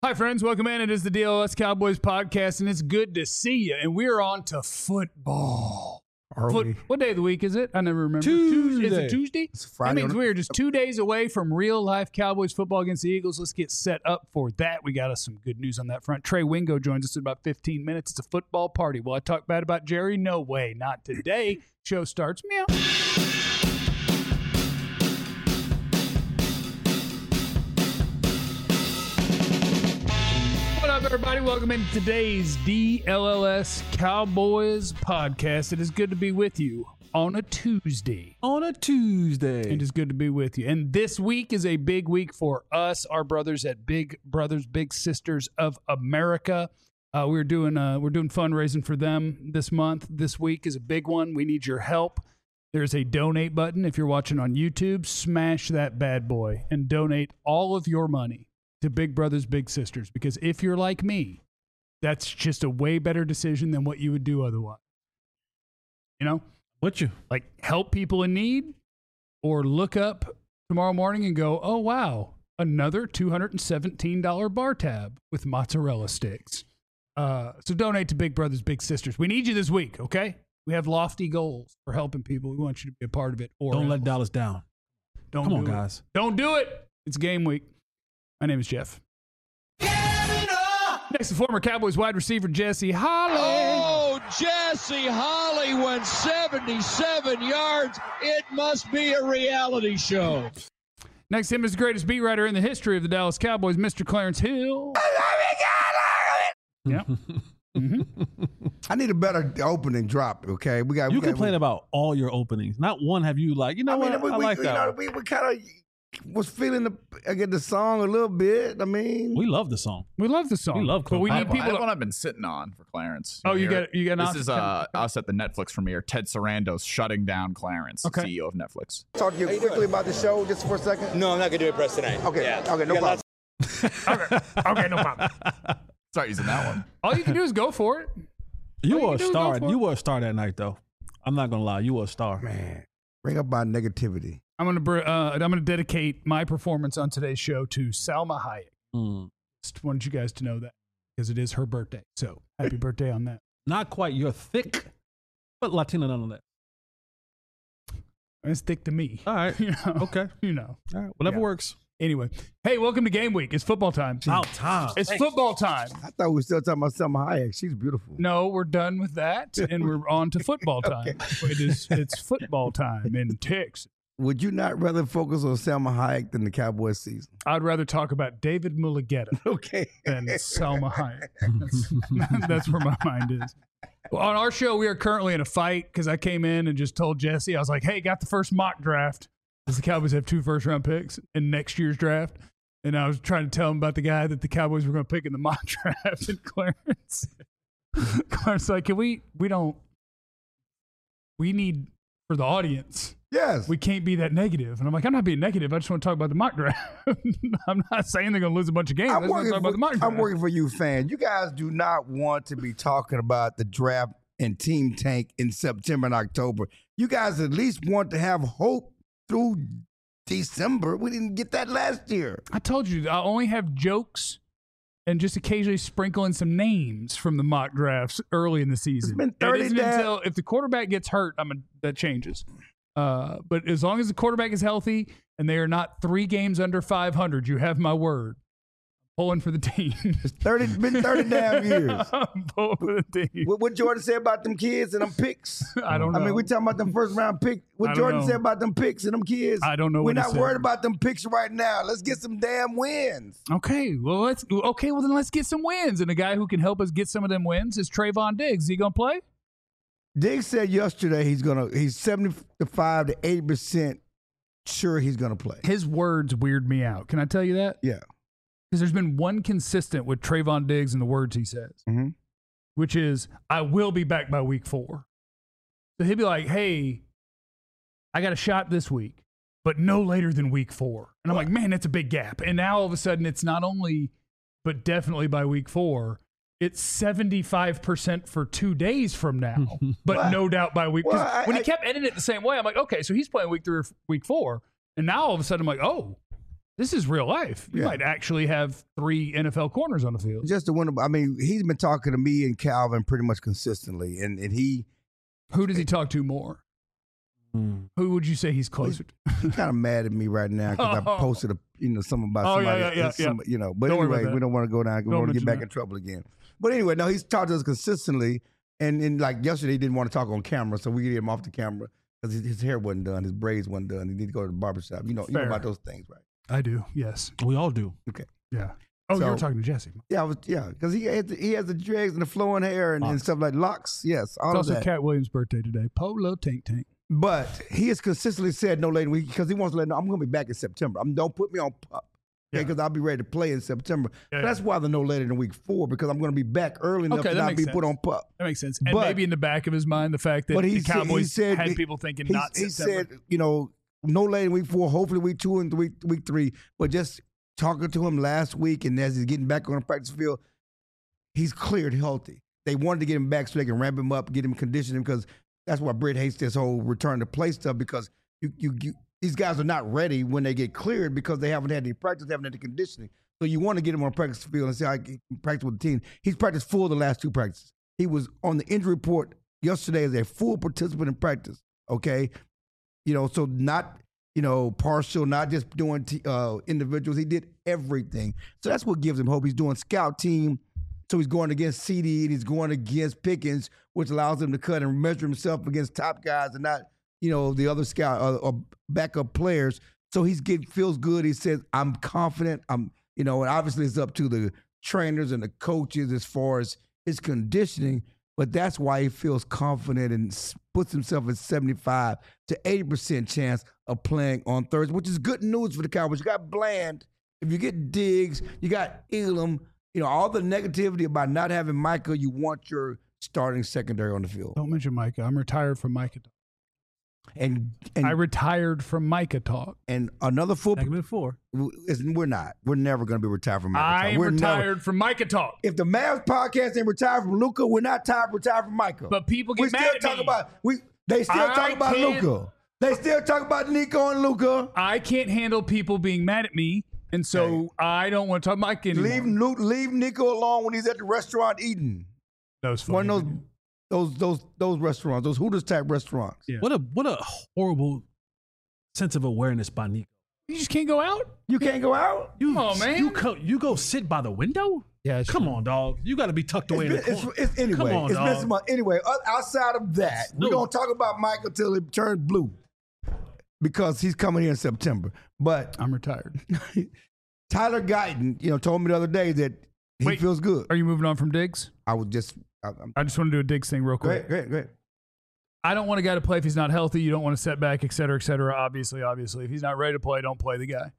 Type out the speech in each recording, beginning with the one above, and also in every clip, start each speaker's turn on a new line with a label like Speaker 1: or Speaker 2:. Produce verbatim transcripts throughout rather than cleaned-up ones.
Speaker 1: Hi, friends. Welcome in. It is the D L S Cowboys podcast, and it's good to see you. And we're on to football. Foot, what day of the week is it? I never remember.
Speaker 2: Tuesday.
Speaker 1: Is it Tuesday?
Speaker 2: It's Friday.
Speaker 1: That means we're just two days away from real-life Cowboys football against the Eagles. Let's get set up for that. We got us some good news on that front. Trey Wingo joins us in about fifteen minutes. It's a football party. Will I talk bad about Jerry? No way. Not today. Show starts. Meow. Everybody, welcome into today's D L L S Cowboys podcast. It is good to be with you on a Tuesday.
Speaker 2: On a Tuesday.
Speaker 1: It is good to be with you. And this week is a big week for us, our brothers at Big Brothers Big Sisters of America. Uh, we're doing uh, we're doing fundraising for them this month. This week is a big one. We need your help. There's a donate button. If you're watching on YouTube, smash that bad boy and donate all of your money to Big Brothers Big Sisters, because if you're like me, that's just a way better decision than what you would do otherwise. You know?
Speaker 2: What you?
Speaker 1: Like help people in need, or look up tomorrow morning and go, oh, wow, another two hundred seventeen dollars bar tab with mozzarella sticks. Uh, so donate to Big Brothers Big Sisters. We need you this week, okay? We have lofty goals for helping people. We want you to be a part of it. Or
Speaker 2: Don't
Speaker 1: else.
Speaker 2: let Dallas down.
Speaker 1: Don't
Speaker 2: Come
Speaker 1: do
Speaker 2: on,
Speaker 1: it.
Speaker 2: guys.
Speaker 1: Don't do it. It's game week. My name is Jeff. Next to former Cowboys wide receiver Jesse Holley.
Speaker 3: Oh, Jesse Holley went seventy-seven yards. It must be a reality show.
Speaker 1: Next to him is the greatest beat writer in the history of the Dallas Cowboys, Mister Clarence Hill. Yeah. Mm-hmm.
Speaker 4: I need a better opening drop, okay? We got.
Speaker 2: You
Speaker 4: we got,
Speaker 2: complain
Speaker 4: we,
Speaker 2: about all your openings. Not one have you like, you know
Speaker 4: I mean,
Speaker 2: what?
Speaker 4: we,
Speaker 2: I
Speaker 4: we,
Speaker 2: like
Speaker 4: you
Speaker 2: that
Speaker 4: know,
Speaker 2: one.
Speaker 4: we, we kind of was feeling the I get the song a little bit. I mean,
Speaker 2: We love the song.
Speaker 1: We love the song.
Speaker 2: We love
Speaker 1: but we
Speaker 2: Close.
Speaker 1: need
Speaker 5: I,
Speaker 1: people.
Speaker 5: I have
Speaker 1: To,
Speaker 5: one I've been sitting on for Clarence.
Speaker 1: oh, you
Speaker 5: Here-
Speaker 1: got you got.
Speaker 5: This
Speaker 1: an
Speaker 5: is uh, us at the Netflix premiere. Ted Sarandos shutting down Clarence,
Speaker 1: Okay.
Speaker 5: C E O of Netflix.
Speaker 4: talk to you quickly about the show just for a second.
Speaker 6: No, I'm not gonna do a press tonight.
Speaker 4: Okay,
Speaker 6: Yeah.
Speaker 4: okay, no
Speaker 6: You
Speaker 4: problem.
Speaker 6: got
Speaker 1: okay, okay, no problem.
Speaker 5: Start using that one.
Speaker 1: All you can do is go for it.
Speaker 2: You
Speaker 1: All
Speaker 2: were
Speaker 1: you
Speaker 2: a
Speaker 1: do is
Speaker 2: star.
Speaker 1: go for it.
Speaker 2: You were a star that night, though. I'm not gonna lie. You were a star.
Speaker 4: Man, bring up my negativity.
Speaker 1: I'm gonna br- uh, I'm gonna dedicate my performance on today's show to Salma Hayek.
Speaker 2: Mm.
Speaker 1: Just wanted you guys to know that because it is her birthday. So happy birthday on that.
Speaker 2: Not quite. You're thick, but Latina nonetheless.
Speaker 1: It's thick to me.
Speaker 2: All right.
Speaker 1: You know.
Speaker 2: Okay.
Speaker 1: You know.
Speaker 2: All right. Whatever
Speaker 1: Yeah.
Speaker 2: works.
Speaker 1: Anyway, hey, welcome to game week. It's football time.
Speaker 2: About time.
Speaker 1: It's football time.
Speaker 4: I thought we were still talking about Selma Hayek. She's beautiful.
Speaker 1: No, we're done with that, and we're on to football time. It is it's football time in Texas.
Speaker 4: Would you not rather focus on Selma Hayek than the Cowboys season?
Speaker 1: I'd rather talk about David Mulugeta
Speaker 4: Okay.
Speaker 1: than Salma Hayek. That's, that's where my mind is. Well, on our show, we are currently in a fight because I came in and just told Jesse, I was like, hey, got the first mock draft. Does the Cowboys have two first round picks in next year's draft? And I was trying to tell him about the guy that the Cowboys were going to pick in the mock draft. And Clarence, Clarence like, can we, we don't, we need for the audience.
Speaker 4: Yes.
Speaker 1: We can't be that negative. And I'm like, I'm not being negative. I just want to talk about the mock draft. I'm not saying they're going to lose a bunch of games. I
Speaker 4: I'm
Speaker 1: just want to
Speaker 4: working,
Speaker 1: talk about
Speaker 4: for,
Speaker 1: the mock draft.
Speaker 4: I'm working for you, fans. You guys do not want to be talking about the draft and team tank in September and October. You guys at least want to have hope through December. We didn't get that last year.
Speaker 1: I told you, I only have jokes and just occasionally sprinkle in some names from the mock drafts early in the season.
Speaker 4: It's been thirty
Speaker 1: It isn't
Speaker 4: days.
Speaker 1: until if the quarterback gets hurt, I mean, that changes. Uh, but as long as the quarterback is healthy and they are not three games under five hundred, you have my word. Pulling for the team.
Speaker 4: It's thirty, been thirty damn years.
Speaker 1: I'm pulling for the team.
Speaker 4: What, what Jordan said about them kids and them picks?
Speaker 1: I don't know.
Speaker 4: I mean, we talking about them first round picks.
Speaker 1: I
Speaker 4: What
Speaker 1: don't
Speaker 4: Jordan
Speaker 1: know.
Speaker 4: said about them picks and them kids?
Speaker 1: I don't know
Speaker 4: We're
Speaker 1: what he
Speaker 4: not
Speaker 1: said.
Speaker 4: worried about them picks right now. Let's get some damn wins.
Speaker 1: Okay, well let's okay, well then let's get some wins. And a guy who can help us get some of them wins is Trayvon Diggs. Is he gonna play?
Speaker 4: Diggs said yesterday he's gonna he's seventy-five to eighty percent sure he's gonna play.
Speaker 1: His words weird me out. Can I tell you that?
Speaker 4: Yeah.
Speaker 1: Because there's been one consistent with Trayvon Diggs and the words he says,
Speaker 4: Mm-hmm.
Speaker 1: which is, I will be back by week four. So he'll be like, hey, I got a shot this week, but no later than week four. And I'm like, man, that's a big gap. And now all of a sudden it's not only, but definitely by week four, it's seventy-five percent for two days from now, but
Speaker 4: Well,
Speaker 1: no doubt by week. 'cause
Speaker 4: well, I-
Speaker 1: when he
Speaker 4: I-
Speaker 1: kept ending it the same way, I'm like, okay, so he's playing week three or week four. And now all of a sudden I'm like, oh, This is real life. You
Speaker 4: Yeah.
Speaker 1: might actually have three N F L corners on the field.
Speaker 4: Just to win. I mean, he's been talking to me and Calvin pretty much consistently, and, and he
Speaker 1: Who does he talk to more?
Speaker 2: Mm.
Speaker 1: Who would you say he's closer to?
Speaker 4: he's kind of mad at me right now because
Speaker 1: Oh.
Speaker 4: I posted a you know something about
Speaker 1: Oh, yeah,
Speaker 4: somebody.
Speaker 1: yeah, yeah,
Speaker 4: some- You know, but
Speaker 1: Don't worry about
Speaker 4: anyway,
Speaker 1: that.
Speaker 4: we don't want to go down. We
Speaker 1: Don't
Speaker 4: want to get
Speaker 1: mention
Speaker 4: back
Speaker 1: that.
Speaker 4: in trouble again. But anyway, no, he's talked to us consistently, and, and like yesterday, he didn't want to talk on camera, so we get him off the camera because his, his hair wasn't done, his braids wasn't done. He needed to go to the barbershop. You know, you know
Speaker 1: Fair.
Speaker 4: about those things, right?
Speaker 1: I do. Yes.
Speaker 2: We all do.
Speaker 1: Yeah. Oh,
Speaker 4: So-
Speaker 1: you were talking to Jesse.
Speaker 4: Yeah, I was. Yeah, because he had the, he has the dreads and the flowing hair and, and
Speaker 2: Locks.
Speaker 4: stuff like locks. Yes, all
Speaker 1: It's
Speaker 4: of
Speaker 1: also
Speaker 4: that.
Speaker 1: Cat Williams' birthday today. Polo Tank Tank.
Speaker 4: But he has consistently said no later week because he wants to let know I'm going to be back in September. I'm, don't put me on pup.
Speaker 1: Yeah.
Speaker 4: Okay, because I'll be ready to play in September.
Speaker 1: Yeah,
Speaker 4: So that's why the no later than week four because I'm going to be back early enough
Speaker 1: Okay,
Speaker 4: to
Speaker 1: that
Speaker 4: not
Speaker 1: makes
Speaker 4: be put
Speaker 1: sense.
Speaker 4: on pup.
Speaker 1: That makes sense. And
Speaker 4: But-
Speaker 1: maybe in the back of his mind, the fact that
Speaker 4: But he
Speaker 1: the
Speaker 4: said- he
Speaker 1: Cowboys
Speaker 4: said
Speaker 1: had
Speaker 4: he-
Speaker 1: people thinking
Speaker 4: He,
Speaker 1: not
Speaker 4: he
Speaker 1: September.
Speaker 4: said, you know, no later than week four, hopefully week two and week week three. But just talking to him last week and as he's getting back on the practice field, he's cleared healthy. They wanted to get him back so they can ramp him up, get him conditioning because that's why Britt hates this whole return to play stuff because you, you, you these guys are not ready when they get cleared because they haven't had any practice, they haven't had any conditioning. So you want to get him on a practice field and see how he can practice with the team. He's practiced full the last two practices. He was on the injury report yesterday as a full participant in practice, okay? You know, so not, you know, partial, not just doing t- uh, individuals. He did everything. So that's what gives him hope. He's doing scout team. So he's going against C D and he's going against Pickens, which allows him to cut and measure himself against top guys and not, you know, the other scout or, or backup players. So he's get feels good. He says, I'm confident. I'm, you know, and obviously it's up to the trainers and the coaches as far as his conditioning, but that's why he feels confident and s- puts himself at seventy-five to eighty percent chance of playing on Thursday, which is good news for the Cowboys. You got Bland. If you get Diggs, you got Elam. You know, all the negativity about not having Micah, you want your starting secondary on the field.
Speaker 1: Don't mention Micah. I'm retired from Micah talk.
Speaker 4: And and,
Speaker 1: I retired from Micah talk.
Speaker 4: and another football,
Speaker 2: Segment four.
Speaker 4: we're not. We're never going to be retired from Micah.
Speaker 1: I am
Speaker 4: we're
Speaker 1: retired
Speaker 4: Never,
Speaker 1: from Micah talk.
Speaker 4: if the Mavs podcast ain't retired from Luka, we're not tired retired from Micah.
Speaker 1: But people
Speaker 4: we
Speaker 1: get
Speaker 4: still
Speaker 1: mad at
Speaker 4: talk
Speaker 1: me.
Speaker 4: about we. They still
Speaker 1: I
Speaker 4: talk about
Speaker 1: can't-
Speaker 4: Luka. They still talk about Nico and Luka.
Speaker 1: I can't handle people being mad at me, and so I don't want to talk Micah anymore.
Speaker 4: Leave Luke, leave Nico alone when he's at the restaurant eating.
Speaker 1: That was funny.
Speaker 4: One of those those those those restaurants, those Hooters type restaurants.
Speaker 1: Yeah.
Speaker 2: What a what a horrible sense of awareness by Nico.
Speaker 1: You just can't go out?
Speaker 4: You can't go out.
Speaker 2: You,
Speaker 1: Come on, man.
Speaker 2: You go, you go sit by the window?
Speaker 1: Yeah,
Speaker 2: Come on, dog. You got to be tucked away
Speaker 4: It's,
Speaker 2: in the
Speaker 4: been- it's,
Speaker 2: corner.
Speaker 4: it's anyway.
Speaker 2: Come on,
Speaker 4: it's been
Speaker 2: dog.
Speaker 4: some months. Anyway, o- outside of that, we
Speaker 2: No.
Speaker 4: don't talk about Michael till it turns blue because he's coming here in September. But
Speaker 1: I'm retired.
Speaker 4: Tyler Guyton, you know, told me the other day that he
Speaker 1: Wait.
Speaker 4: feels good.
Speaker 1: Are you moving on from Diggs?
Speaker 4: I was just, I, I'm,
Speaker 1: I just want to do a Diggs thing real quick.
Speaker 4: great, great, great.
Speaker 1: I don't want a guy to play if he's not healthy. You don't want to set back, et cetera, et cetera. Obviously, obviously. If he's not ready to play, don't play the guy.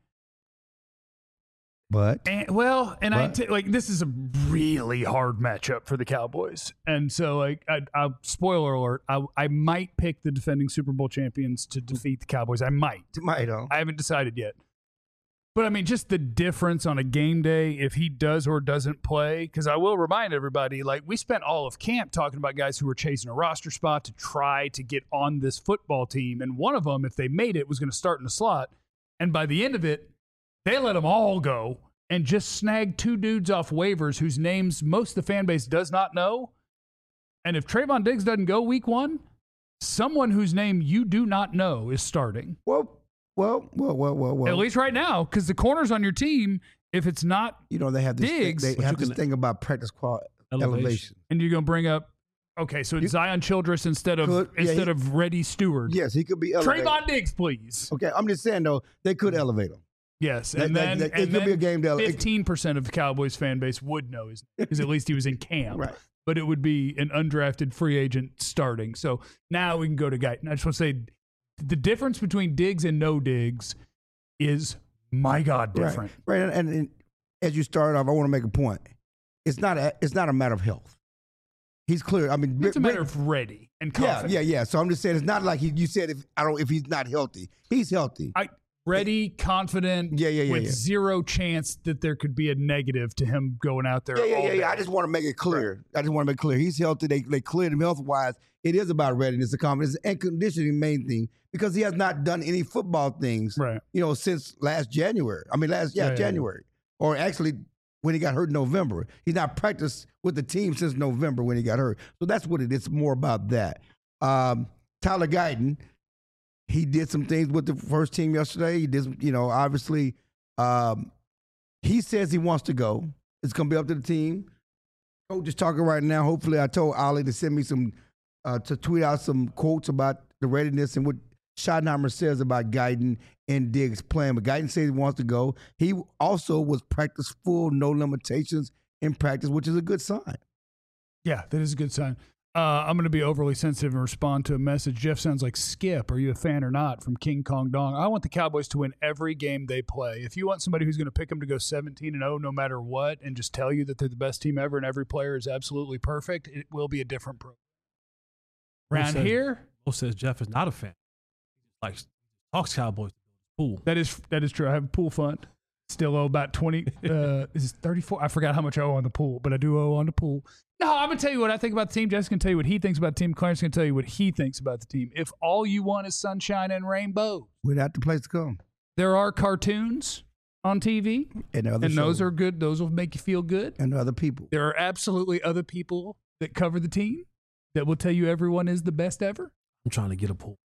Speaker 4: But
Speaker 1: And, well, and I
Speaker 4: But-
Speaker 1: t- like this is a really hard matchup for the Cowboys, and so like, I, I spoiler alert, I, I might pick the defending Super Bowl champions to defeat the Cowboys. I might.
Speaker 4: might though.
Speaker 1: I haven't decided yet. But I mean, just the difference on a game day if he does or doesn't play. Because I will remind everybody, like we spent all of camp talking about guys who were chasing a roster spot to try to get on this football team, and one of them, if they made it, was going to start in the slot. And by the end of it, they let them all go and just snagged two dudes off waivers whose names most of the fan base does not know. And if Trayvon Diggs doesn't go week one, someone whose name you do not know is starting.
Speaker 4: Well, well, well, well, well, well.
Speaker 1: At least right now, because the corners on your team, if it's not,
Speaker 4: you know they have this.
Speaker 1: Diggs,
Speaker 4: thing, they
Speaker 2: but
Speaker 4: have
Speaker 2: you
Speaker 4: this
Speaker 2: can-
Speaker 4: thing about practice quality elevation.
Speaker 2: Elevation.
Speaker 1: and you're going to bring up, okay, so it's
Speaker 4: You-
Speaker 1: Zion Childress instead of
Speaker 4: Could- yeah,
Speaker 1: instead
Speaker 4: he-
Speaker 1: of Reddy Stewart.
Speaker 4: Yes, he could be elevated.
Speaker 1: Trayvon Diggs, please.
Speaker 4: Okay, I'm just saying though they could elevate him.
Speaker 1: Yes,
Speaker 4: That-
Speaker 1: and
Speaker 4: that-
Speaker 1: then,
Speaker 4: that- it
Speaker 1: and
Speaker 4: could be
Speaker 1: then
Speaker 4: a game that- it-
Speaker 1: fifteen percent of the Cowboys fan base would know his because at least he was in camp.
Speaker 4: Right.
Speaker 1: But it would be an undrafted free agent starting. So now we can go to Guyton. I just want to say the difference between Diggs and no Diggs is, my God, different.
Speaker 4: Right, right. And, and as you started off, I want to make a point. It's not a it's not a matter of health. He's clear. I mean,
Speaker 1: It's a
Speaker 4: Rick-
Speaker 1: matter of ready and
Speaker 4: yeah,
Speaker 1: confident.
Speaker 4: yeah, yeah. So I'm just saying it's not like he, you said if I don't if he's not healthy, he's healthy.
Speaker 1: I ready, confident,
Speaker 4: Yeah, yeah, yeah,
Speaker 1: with
Speaker 4: yeah.
Speaker 1: zero chance that there could be a negative to him going out there.
Speaker 4: Yeah, yeah,
Speaker 1: all
Speaker 4: yeah,
Speaker 1: day.
Speaker 4: yeah. I just want to make it clear. I just want to make it clear. He's healthy. They they cleared him health wise. It is about readiness, the confidence, and conditioning, main thing, because he has not done any football things,
Speaker 1: Right.
Speaker 4: you know, since last January. I mean, last yeah,
Speaker 1: Yeah, yeah,
Speaker 4: January, or actually when he got hurt in November. He's not practiced with the team since November when he got hurt. So that's what it is. More about that. Um, Tyler Guyton, he did some things with the first team yesterday. He did, some, you know, obviously, um, he says he wants to go. It's going to be up to the team. Coach is talking right now. Hopefully, I told Ollie to send me some, uh, to tweet out some quotes about the readiness and what Schottenheimer says about Guyton and Diggs playing. But Guyton says he wants to go. He also was practice full, no limitations in practice, which is a good sign.
Speaker 1: Yeah, that is a good sign. Uh, I'm going to be overly sensitive and respond to a message. Jeff sounds like Skip. Are you a fan or not? From King Kong Dong. I want the Cowboys to win every game they play. If you want somebody who's going to pick them to go seventeen and oh no matter what and just tell you that they're the best team ever and every player is absolutely perfect, it will be a different program. Around
Speaker 2: says,
Speaker 1: here,
Speaker 2: Mo says Jeff is not a fan. Like talks Cowboys pool.
Speaker 1: that is that is true. I have a pool fund. Still owe about twenty. Uh, is it thirty-four? I forgot how much I owe on the pool, but I do owe on the pool. No, I'm gonna tell you what I think about the team. Jeff's gonna tell you what he thinks about the team. Clarence gonna tell you what he thinks about the team. If all you want is sunshine and rainbow,
Speaker 4: Without the place to come.
Speaker 1: there are cartoons on T V,
Speaker 4: And, other
Speaker 1: and those
Speaker 4: shows.
Speaker 1: are good. Those will make you feel good.
Speaker 4: And other people.
Speaker 1: There are absolutely other people that cover the team that will tell you everyone is the best ever.
Speaker 2: I'm trying to get a pool.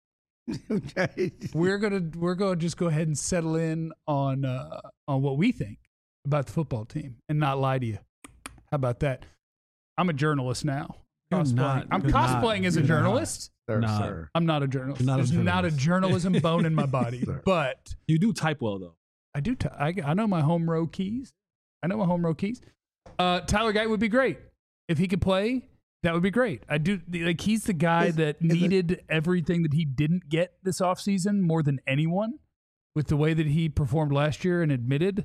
Speaker 1: We're gonna we're gonna just go ahead and settle in on uh, on what we think about the football team and not lie to you. How about that? I'm a journalist now.
Speaker 2: You're
Speaker 1: Cosplaying.
Speaker 2: not.
Speaker 1: I'm
Speaker 2: You're not.
Speaker 1: cosplaying as a
Speaker 2: You're not.
Speaker 1: journalist.
Speaker 4: Sir,
Speaker 2: Nah.
Speaker 4: sir.
Speaker 1: I'm not a journalist.
Speaker 2: You're not a
Speaker 1: There's not a
Speaker 2: journalist.
Speaker 1: journalism bone in my body,
Speaker 4: Sir.
Speaker 1: but
Speaker 2: You do type well though.
Speaker 1: I do. T- I, I know my home row keys. I know my home row keys. Uh, Tyler Guyton would be great if he could play. That would be great. I do like he's the guy
Speaker 4: Is-
Speaker 1: that
Speaker 4: is it-
Speaker 1: needed everything that he didn't get this offseason more than anyone with the way that he performed last year and admitted.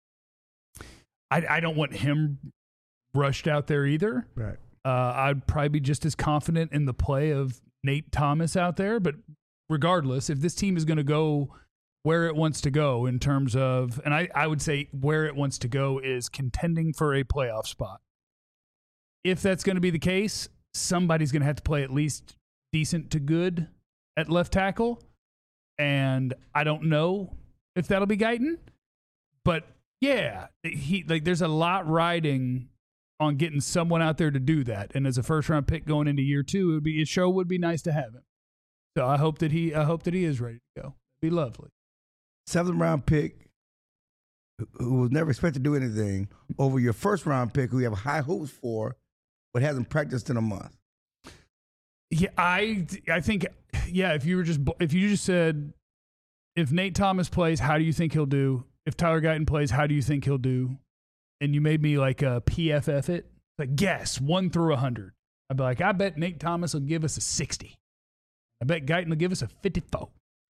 Speaker 1: I, I don't want him rushed out there either.
Speaker 4: Right.
Speaker 1: Uh, I'd probably be just as confident in the play of Nate Thomas out there. But regardless, if this team is going to go where it wants to go in terms of, and I, I would say where it wants to go is contending for a playoff spot. If that's going to be the case, somebody's going to have to play at least decent to good at left tackle. And I don't know if that'll be Guyton. But yeah, he like there's a lot riding on getting someone out there to do that. And as a first round pick going into year two, it would be it sure would be nice to have him. So I hope that he I hope that he is ready to go. It'd be lovely.
Speaker 4: Seventh round pick who- who was never expected to do anything over your first round pick who you have high hopes for but hasn't practiced in a month.
Speaker 1: Yeah, I I think yeah, if you were just if you just said if Nate Thomas plays, how do you think he'll do? If Tyler Guyton plays, how do you think he'll do? And you made me like a P F F it, like guess one through a hundred. I'd be like, I bet Nate Thomas will give us a sixty. I bet Guyton will give us a fifty-four.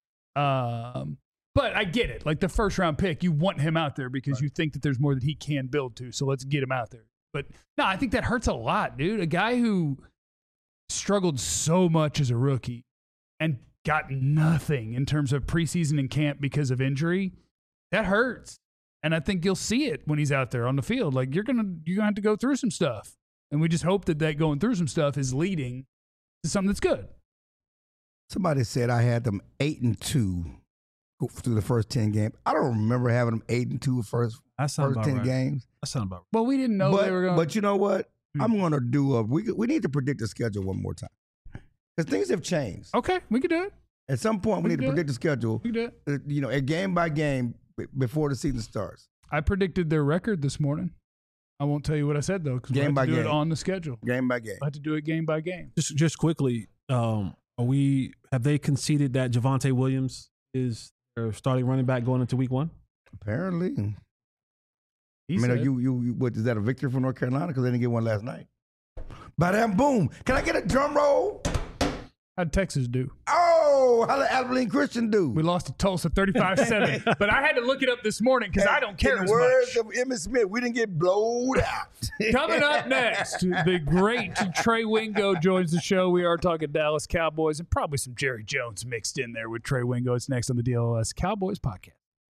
Speaker 1: Um, but I get it. Like the first round pick, you want him out there because you think that there's more that he can build to. So let's get him out there. But no, I think that hurts a lot, dude. A guy who struggled so much as a rookie and got nothing in terms of preseason and camp because of injury, that hurts. And I think you'll see it when he's out there on the field. Like you're gonna you're gonna have to go through some stuff, and we just hope that that going through some stuff is leading to something that's good.
Speaker 4: Somebody said I had them eight and two go through the first ten games. I don't remember having them eight and two first
Speaker 2: That sounds
Speaker 4: first
Speaker 2: about
Speaker 4: ten
Speaker 2: right.
Speaker 4: games.
Speaker 2: That sounds about right.
Speaker 1: Well, we didn't know
Speaker 4: but,
Speaker 1: they were going.
Speaker 4: but you know what?
Speaker 1: Hmm.
Speaker 4: I'm going to do a. We we need to predict the schedule one more time because things have changed.
Speaker 1: Okay, we can do it.
Speaker 4: At some point, we
Speaker 1: We
Speaker 4: need to
Speaker 1: can do
Speaker 4: predict the schedule.
Speaker 1: We can do it.
Speaker 4: uh, You know, a game by game b- before the season starts.
Speaker 1: I predicted their record this morning. I won't tell you what I said though, because we
Speaker 4: Game
Speaker 1: have
Speaker 4: by
Speaker 1: to do it
Speaker 4: game.
Speaker 1: on the schedule.
Speaker 4: Game by game.
Speaker 1: I have to do it game by game.
Speaker 2: Just just quickly, um, are we have they conceded that Javonte Williams is their starting running back going into week one?
Speaker 4: Apparently.
Speaker 1: He
Speaker 4: I mean, are
Speaker 1: said-
Speaker 4: you, you, you, what, is that a victory for North Carolina? Because they didn't get one last night. Bada boom. Can I get a drum roll?
Speaker 1: How'd Texas do?
Speaker 4: Oh, Oh, how did Abilene Christian do?
Speaker 1: We lost to Tulsa thirty-five seven. But I had to look it up this morning because I don't care
Speaker 4: In
Speaker 1: as
Speaker 4: the words
Speaker 1: much.
Speaker 4: of Emmitt Smith, we didn't get blowed out.
Speaker 1: Coming up next, the great Trey Wingo joins the show. We are talking Dallas Cowboys and probably some Jerry Jones mixed in there with Trey Wingo. It's next on the D L S Cowboys podcast.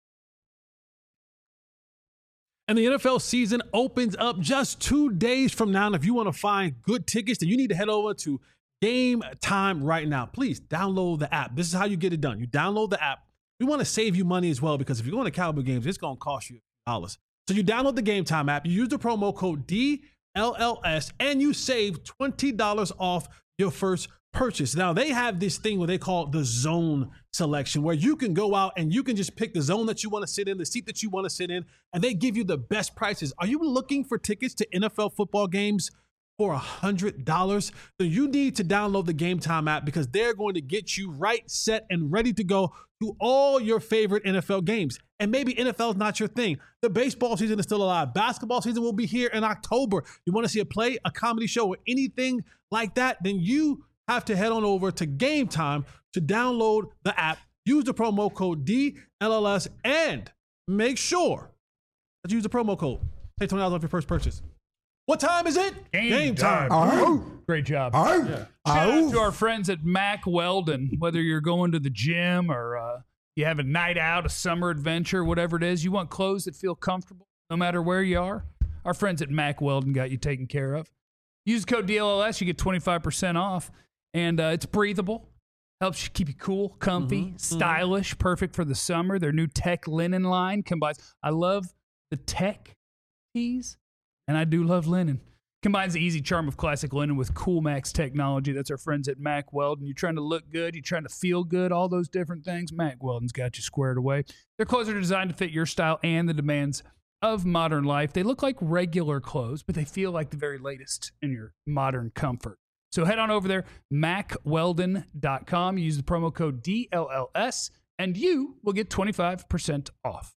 Speaker 2: And the N F L season opens up just two days from now. And if you want to find good tickets, then you need to head over to Game Time right now. Please download the app. This is how you get it done. You download the app. We want to save you money as well because if you're going to Cowboy games, it's going to cost you dollars. So you download the Game Time app. You use the promo code D L L S and you save twenty dollars off your first purchase. Now, they have this thing where they call it the zone selection, where you can go out and you can just pick the zone that you want to sit in, the seat that you want to sit in, and they give you the best prices. Are you looking for tickets to N F L football games for one hundred dollars? Then you need to download the Game Time app because they're going to get you right, set, and ready to go to all your favorite N F L games. And maybe N F L is not your thing. The baseball season is still alive. Basketball season will be here in October. You want to see a play, a comedy show, or anything like that, then you have to head on over to Game Time to download the app, use the promo code D L L S, and make sure that you use the promo code. Pay twenty dollars off your first purchase. What time is it?
Speaker 1: Game time.
Speaker 4: Oh,
Speaker 1: Great job.
Speaker 4: oh,
Speaker 1: Shout out
Speaker 4: oh.
Speaker 1: to our friends at Mack Weldon. Whether you're going to the gym or uh, you have a night out, a summer adventure, whatever it is, you want clothes that feel comfortable no matter where you are, our friends at Mack Weldon got you taken care of. Use code D L L S, you get twenty-five percent off. And uh, it's breathable, helps you keep you cool, comfy,
Speaker 2: Mm-hmm,
Speaker 1: stylish, mm-hmm. perfect for the summer. Their new tech linen line combines, I love the tech tees, and I do love linen. Combines the easy charm of classic linen with Cool Max technology. That's our friends at Mack Weldon. You're trying to look good, you're trying to feel good, all those different things. Mack Weldon's got you squared away. Their clothes are designed to fit your style and the demands of modern life. They look like regular clothes, but they feel like the very latest in your modern comfort. So head on over there, mack weldon dot com. Use the promo code D L L S, and you will get twenty-five percent off.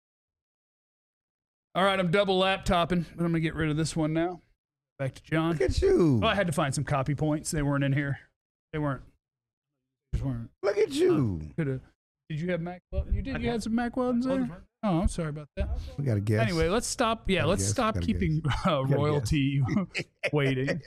Speaker 1: All right, I'm double laptopping, but I'm going to get rid of this one now. Back to John.
Speaker 4: Look at you.
Speaker 1: Well, I had to find some copy points. They weren't in here. They weren't. Just weren't.
Speaker 4: Look at you.
Speaker 1: Uh, could have. Did you have Mack Weldon? You did? You had some Mack Weldons there? Oh, I'm sorry about that.
Speaker 4: We got to guess.
Speaker 1: Anyway, let's stop. Yeah, let's
Speaker 4: guess.
Speaker 1: stop
Speaker 4: Gotta
Speaker 1: keeping uh, royalty waiting.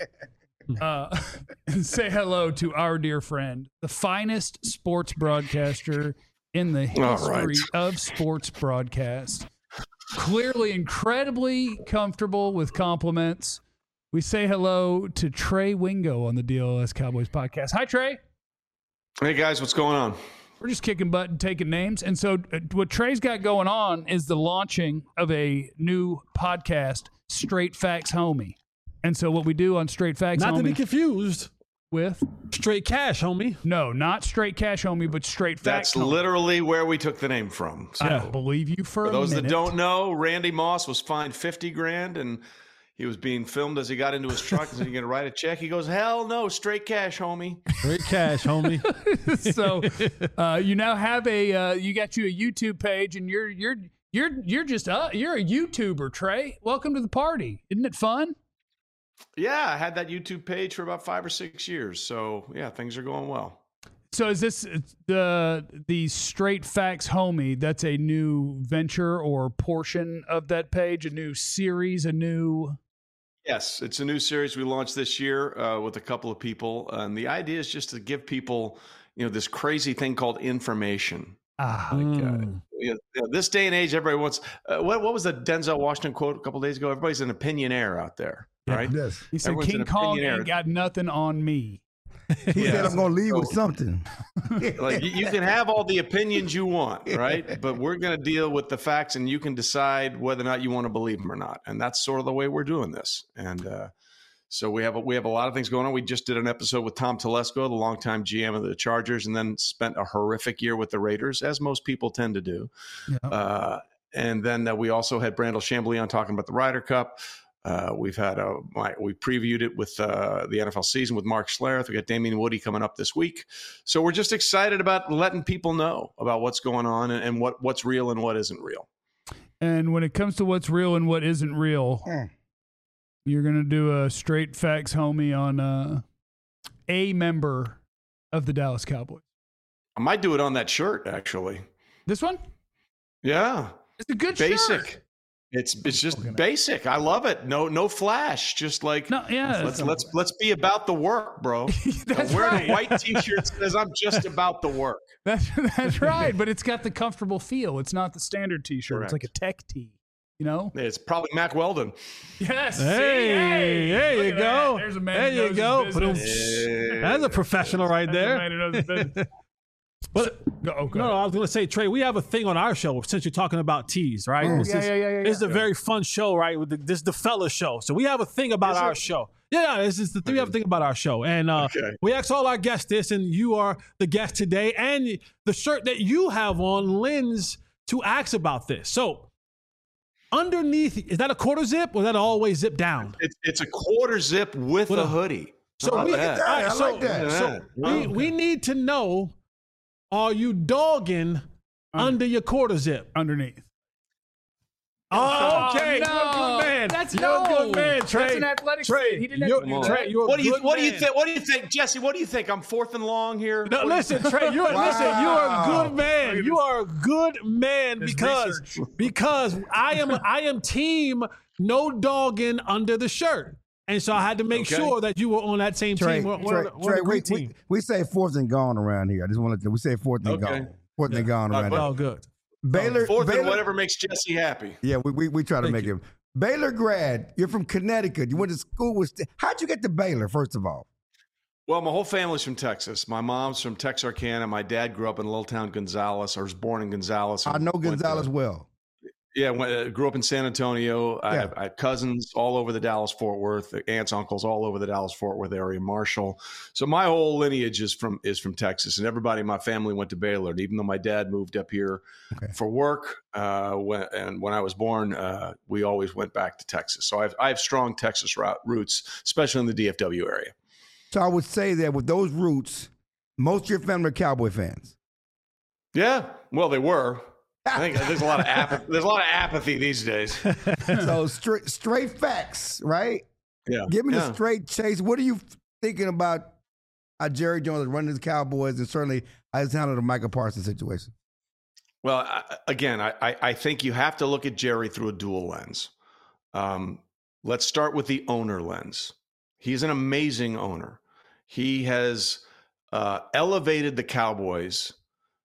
Speaker 1: Uh, and say hello to our dear friend, the finest sports broadcaster in the history
Speaker 6: right.
Speaker 1: of sports broadcast. Clearly incredibly comfortable with compliments. We say hello to Trey Wingo on the D L S Cowboys podcast. Hi, Trey.
Speaker 6: Hey, guys, what's going on?
Speaker 1: We're just kicking butt and taking names. And so uh, what Trey's got going on is the launching of a new podcast, Straight Facts Homie. And so what we do on Straight Facts
Speaker 2: Not
Speaker 1: Homie
Speaker 2: to be confused
Speaker 1: with
Speaker 2: straight cash, homie.
Speaker 1: no, not Straight Cash Homie, but Straight Facts
Speaker 6: That's
Speaker 1: Homie.
Speaker 6: literally where we took the name from. So,
Speaker 1: I believe you for,
Speaker 6: for
Speaker 1: a
Speaker 6: those
Speaker 1: minute.
Speaker 6: that don't know, Randy Moss was fined fifty grand and he was being filmed as he got into his truck. And so you're going to write a check. He goes, hell no, straight cash, homie.
Speaker 2: Straight cash, homie.
Speaker 1: So uh, you now have a uh, you got you a YouTube page, and you're you're you're you're just uh, you're a YouTuber, Trey. Welcome to the party. Isn't it fun?
Speaker 6: Yeah, I had that YouTube page for about five or six years. So, yeah, things are going well.
Speaker 1: So is this the the Straight Facts Homie? That's a new venture or portion of that page, a new series, a new.
Speaker 6: Yes, it's a new series we launched this year uh, with a couple of people. And the idea is just to give people, you know, this crazy thing called information.
Speaker 1: Ah,
Speaker 6: Like, uh,
Speaker 2: Mm.
Speaker 6: you know, this day and age, everybody wants. Uh, what what was the Denzel Washington quote a couple days ago? Everybody's an opinionaire out there, right?
Speaker 4: Yes.
Speaker 1: he said
Speaker 6: everyone's
Speaker 1: King
Speaker 6: an
Speaker 1: Kong
Speaker 6: opinionaire.
Speaker 1: ain't got nothing on me.
Speaker 4: He
Speaker 6: Yeah.
Speaker 4: said, I'm going to leave with
Speaker 6: So-
Speaker 4: something.
Speaker 6: Like you, you can have all the opinions you want, right? But we're going to deal with the facts, and you can decide whether or not you want to believe them or not. And that's sort of the way we're doing this. And uh, so we have a, we have a lot of things going on. We just did an episode with Tom Telesco, the longtime G M of the Chargers, and then spent a horrific year with the Raiders, as most people tend to do.
Speaker 1: Yeah.
Speaker 6: Uh, and then uh, we also had Brandel Chambly on talking about the Ryder Cup. Uh, we've had a my, we previewed it with uh, the N F L season with Mark Schlereth. We got Damien Woody coming up this week, so we're just excited about letting people know about what's going on and, and what what's real and what isn't real.
Speaker 1: And when it comes to what's real and what isn't real,
Speaker 4: Mm.
Speaker 1: you're going to do a Straight Facts Homie on uh, a member of the Dallas Cowboys.
Speaker 6: I might do it on that shirt, actually.
Speaker 1: This one?
Speaker 6: Yeah.
Speaker 1: It's a good
Speaker 6: basic.
Speaker 1: shirt.
Speaker 6: It's it's just basic. I love it. No no flash. Just like
Speaker 1: no, yeah.
Speaker 6: Let's let's let's be about the work, bro.
Speaker 1: That's
Speaker 6: wearing
Speaker 1: right.
Speaker 6: a white T-shirt says I'm just about the work.
Speaker 1: That's that's right. But it's got the comfortable feel. It's not the standard T-shirt.
Speaker 6: Correct.
Speaker 1: It's like a tech tee. You know?
Speaker 6: It's probably Mac Weldon.
Speaker 1: Yes.
Speaker 2: Hey,
Speaker 1: hey,
Speaker 2: there
Speaker 1: look
Speaker 2: you
Speaker 1: at
Speaker 2: go.
Speaker 1: That. There's a man
Speaker 2: there
Speaker 1: who
Speaker 2: you
Speaker 1: knows
Speaker 2: go.
Speaker 1: his
Speaker 2: But
Speaker 1: business.
Speaker 2: that's a professional right
Speaker 1: That's
Speaker 2: there.
Speaker 1: a man who knows his business.
Speaker 2: But
Speaker 1: Go, oh, go
Speaker 2: no, no,
Speaker 1: ahead.
Speaker 2: I was going to say, Trey, we have a thing on our show since you're talking about teas, right?
Speaker 1: Oh,
Speaker 2: this
Speaker 1: yeah,
Speaker 2: is,
Speaker 1: yeah, yeah, yeah,
Speaker 2: This is
Speaker 1: yeah.
Speaker 2: a very fun show, right? With the, this is the fella show. So we have a thing about
Speaker 6: Is
Speaker 2: our
Speaker 6: it?
Speaker 2: show. Yeah, yeah, this is the thing. We have a thing about our show. And uh,
Speaker 6: Okay.
Speaker 2: we ask all our guests this, and you are the guest today. And the shirt that you have on lends to ask about this. So underneath, is that a quarter zip or is that always zip down?
Speaker 6: It's it's a quarter zip with,
Speaker 2: With
Speaker 6: a
Speaker 2: a-
Speaker 6: hoodie.
Speaker 2: So
Speaker 6: How
Speaker 2: we,
Speaker 6: about that?
Speaker 2: all right,
Speaker 4: I
Speaker 2: so,
Speaker 4: like that.
Speaker 2: so
Speaker 6: Yeah.
Speaker 2: we, we need to know, are you dogging under your quarter zip?
Speaker 1: Underneath.
Speaker 2: Oh, okay.
Speaker 1: no.
Speaker 2: You're a good man.
Speaker 1: That's
Speaker 2: you're a
Speaker 1: no.
Speaker 2: good man, Trey.
Speaker 1: That's an athletic
Speaker 2: Trey,
Speaker 1: fit. He didn't
Speaker 2: you're,
Speaker 1: have to do
Speaker 6: Come
Speaker 1: that.
Speaker 2: Trey, you're a
Speaker 6: What do you
Speaker 2: good
Speaker 6: what do you
Speaker 2: man.
Speaker 6: think? What do you think, Jesse? What do you think? I'm fourth and long here.
Speaker 2: No,
Speaker 6: What do you
Speaker 2: listen,
Speaker 6: think?
Speaker 2: Trey. You're
Speaker 4: Wow.
Speaker 2: listen. You're a good man. You are a good man
Speaker 1: His
Speaker 2: because
Speaker 1: research.
Speaker 2: because I am I am team no dogging under the shirt, and so I had to make
Speaker 6: Okay.
Speaker 2: sure that you were on that same
Speaker 4: Trey,
Speaker 2: team. We're, we're,
Speaker 4: Trey,
Speaker 2: on the- we're on
Speaker 4: Trey
Speaker 2: the
Speaker 4: we,
Speaker 2: green
Speaker 4: we,
Speaker 2: team.
Speaker 4: we say fourth and gone around here. I just want to we say fourth and
Speaker 6: Okay.
Speaker 4: gone. Fourth and gone
Speaker 6: Uh,
Speaker 4: around
Speaker 6: but-
Speaker 4: here.
Speaker 2: Oh, good.
Speaker 4: Baylor,
Speaker 6: Fourth
Speaker 4: Baylor,
Speaker 6: and whatever makes Jesse happy.
Speaker 4: Yeah, we, we, we try to
Speaker 2: Thank
Speaker 4: make
Speaker 2: you.
Speaker 4: him. Baylor grad, you're from Connecticut. You went to school with. How'd you get to Baylor, first of all?
Speaker 6: Well, my whole family's from Texas. My mom's from Texarkana. My dad grew up in a little town, Gonzales. I was born in Gonzales.
Speaker 4: I
Speaker 6: and
Speaker 4: know
Speaker 6: went to-
Speaker 4: Gonzalez well.
Speaker 6: Yeah, went, uh, grew up in San Antonio. I,
Speaker 4: Yeah.
Speaker 6: have, I have cousins all over the Dallas-Fort Worth, aunts, uncles all over the Dallas-Fort Worth area, Marshall. So my whole lineage is from is from Texas, and everybody in my family went to Baylor. And even though my dad moved up here
Speaker 4: Okay.
Speaker 6: for work, uh, when, and when I was born, uh, we always went back to Texas. So I have, I have strong Texas route, roots, especially in the D F W area.
Speaker 4: So I would say that with those roots, most of your family are Cowboy fans.
Speaker 6: Yeah, well, they were. I think there's a lot of apathy. There's a lot of apathy these days.
Speaker 4: So straight straight facts, right?
Speaker 6: Yeah,
Speaker 4: Give me
Speaker 6: yeah.
Speaker 4: the straight chase. What are you thinking about how Jerry Jones is running the Cowboys, and certainly how he's handled the Michael Parsons situation?
Speaker 6: Well, I, again, I, I I think you have to look at Jerry through a dual lens. Um, let's start with the owner lens. He's an amazing owner. He has uh, elevated the Cowboys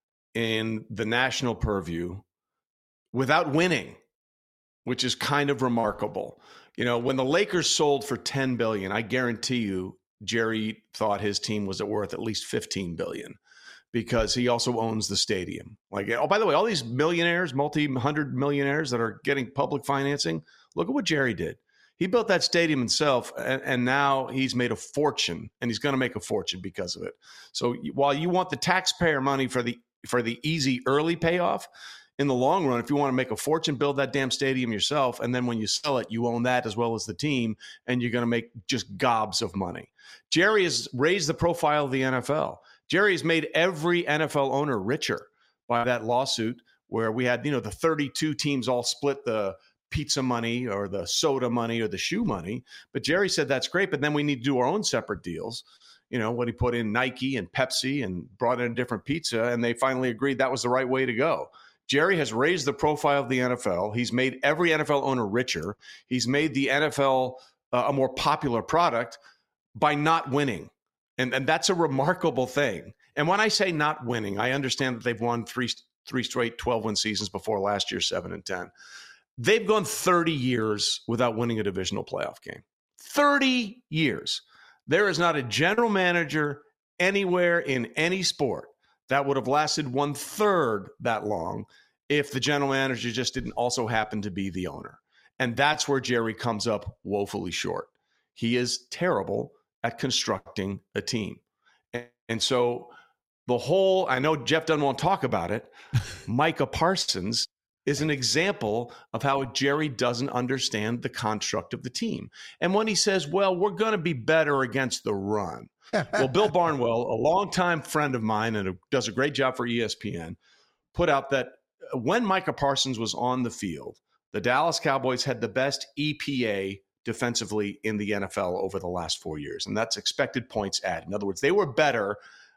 Speaker 6: in the national purview without winning, which is kind of remarkable. You know, when the Lakers sold for ten billion dollars, I guarantee you Jerry thought his team was worth at least fifteen billion dollars because he also owns the stadium. Like, oh, by the way, all these millionaires, multi-hundred millionaires that are getting public financing, look at what Jerry did. He built that stadium himself, and, and now he's made a fortune, and he's going to make a fortune because of it. So while you want the taxpayer money for the for the easy early payoff, in the long run, if you want to make a fortune, build that damn stadium yourself. And then when you sell it, you own that as well as the team, and you're going to make just gobs of money. Jerry has raised the profile of the N F L. Jerry has made every N F L owner richer by that lawsuit where we had, you know, the thirty-two teams all split the pizza money or the soda money or the shoe money. But Jerry said, that's great, but then we need to do our own separate deals. You know, when he put in Nike and Pepsi and brought in a different pizza, and they finally agreed that was the right way to go. Jerry has raised the profile of the N F L. He's made every N F L owner richer. He's made the N F L uh, a more popular product by not winning. And, and that's a remarkable thing. And when I say not winning, I understand that they've won three, three straight twelve-win seasons before last year, seven and ten. They've gone thirty years without winning a divisional playoff game. thirty years. There is not a general manager anywhere in any sport that would have lasted one third that long if the general manager just didn't also happen to be the owner. And that's where Jerry comes up woefully short. He is terrible at constructing a team. And, and so the whole, I know Jeff doesn't want to talk about it, Micah Parsons is an example of how Jerry doesn't understand the construct of the team. And when he says, well, we're going to be better against the run. Well, Bill Barnwell, a longtime friend of mine and does a great job for E S P N, put out that when Micah Parsons was on the field, the Dallas Cowboys had the best E P A defensively in the N F L over the last four years. And that's expected points added. In other words, they were better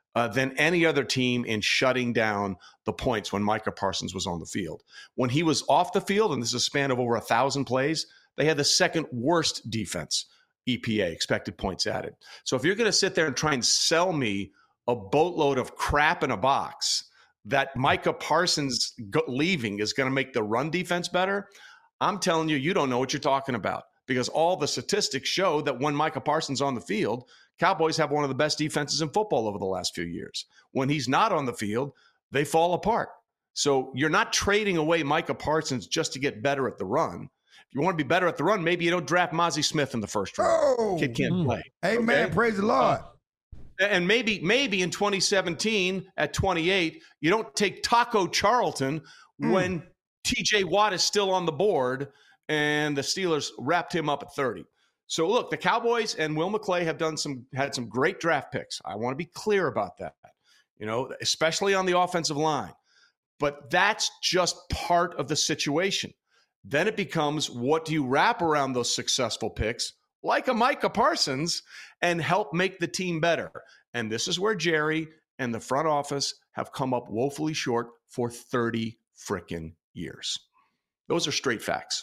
Speaker 6: uh, than any other team in shutting down the points when Micah Parsons was on the field. When he was off the field, and this is a span of over a thousand plays, they had the second worst defense, E P A, expected points added. So if you're going to sit there and try and sell me a boatload of crap in a box that Micah Parsons go- leaving is going to make the run defense better, I'm telling you, you don't know what you're talking about, because all the statistics show that when Micah Parsons on the field, Cowboys have one of the best defenses in football over the last few years. When he's not on the field, they fall apart. So you're not trading away Micah Parsons just to get better at the run. If you want to be better at the run, maybe you don't draft Mozzie Smith in the first round.
Speaker 4: Oh,
Speaker 6: Kid can't play.
Speaker 4: Amen.
Speaker 6: Okay?
Speaker 4: Praise the Lord.
Speaker 6: Uh, and maybe, maybe in twenty seventeen at twenty-eight, you don't take Taco Charlton mm. when T J Watt is still on the board and the Steelers wrapped him up at thirty. So look, the Cowboys and Will McClay have done some had some great draft picks. I want to be clear about that, you know, especially on the offensive line. But that's just part of the situation. Then it becomes, what do you wrap around those successful picks, like a Micah Parsons, and help make the team better? And this is where Jerry and the front office have come up woefully short for thirty frickin' years. Those are straight facts.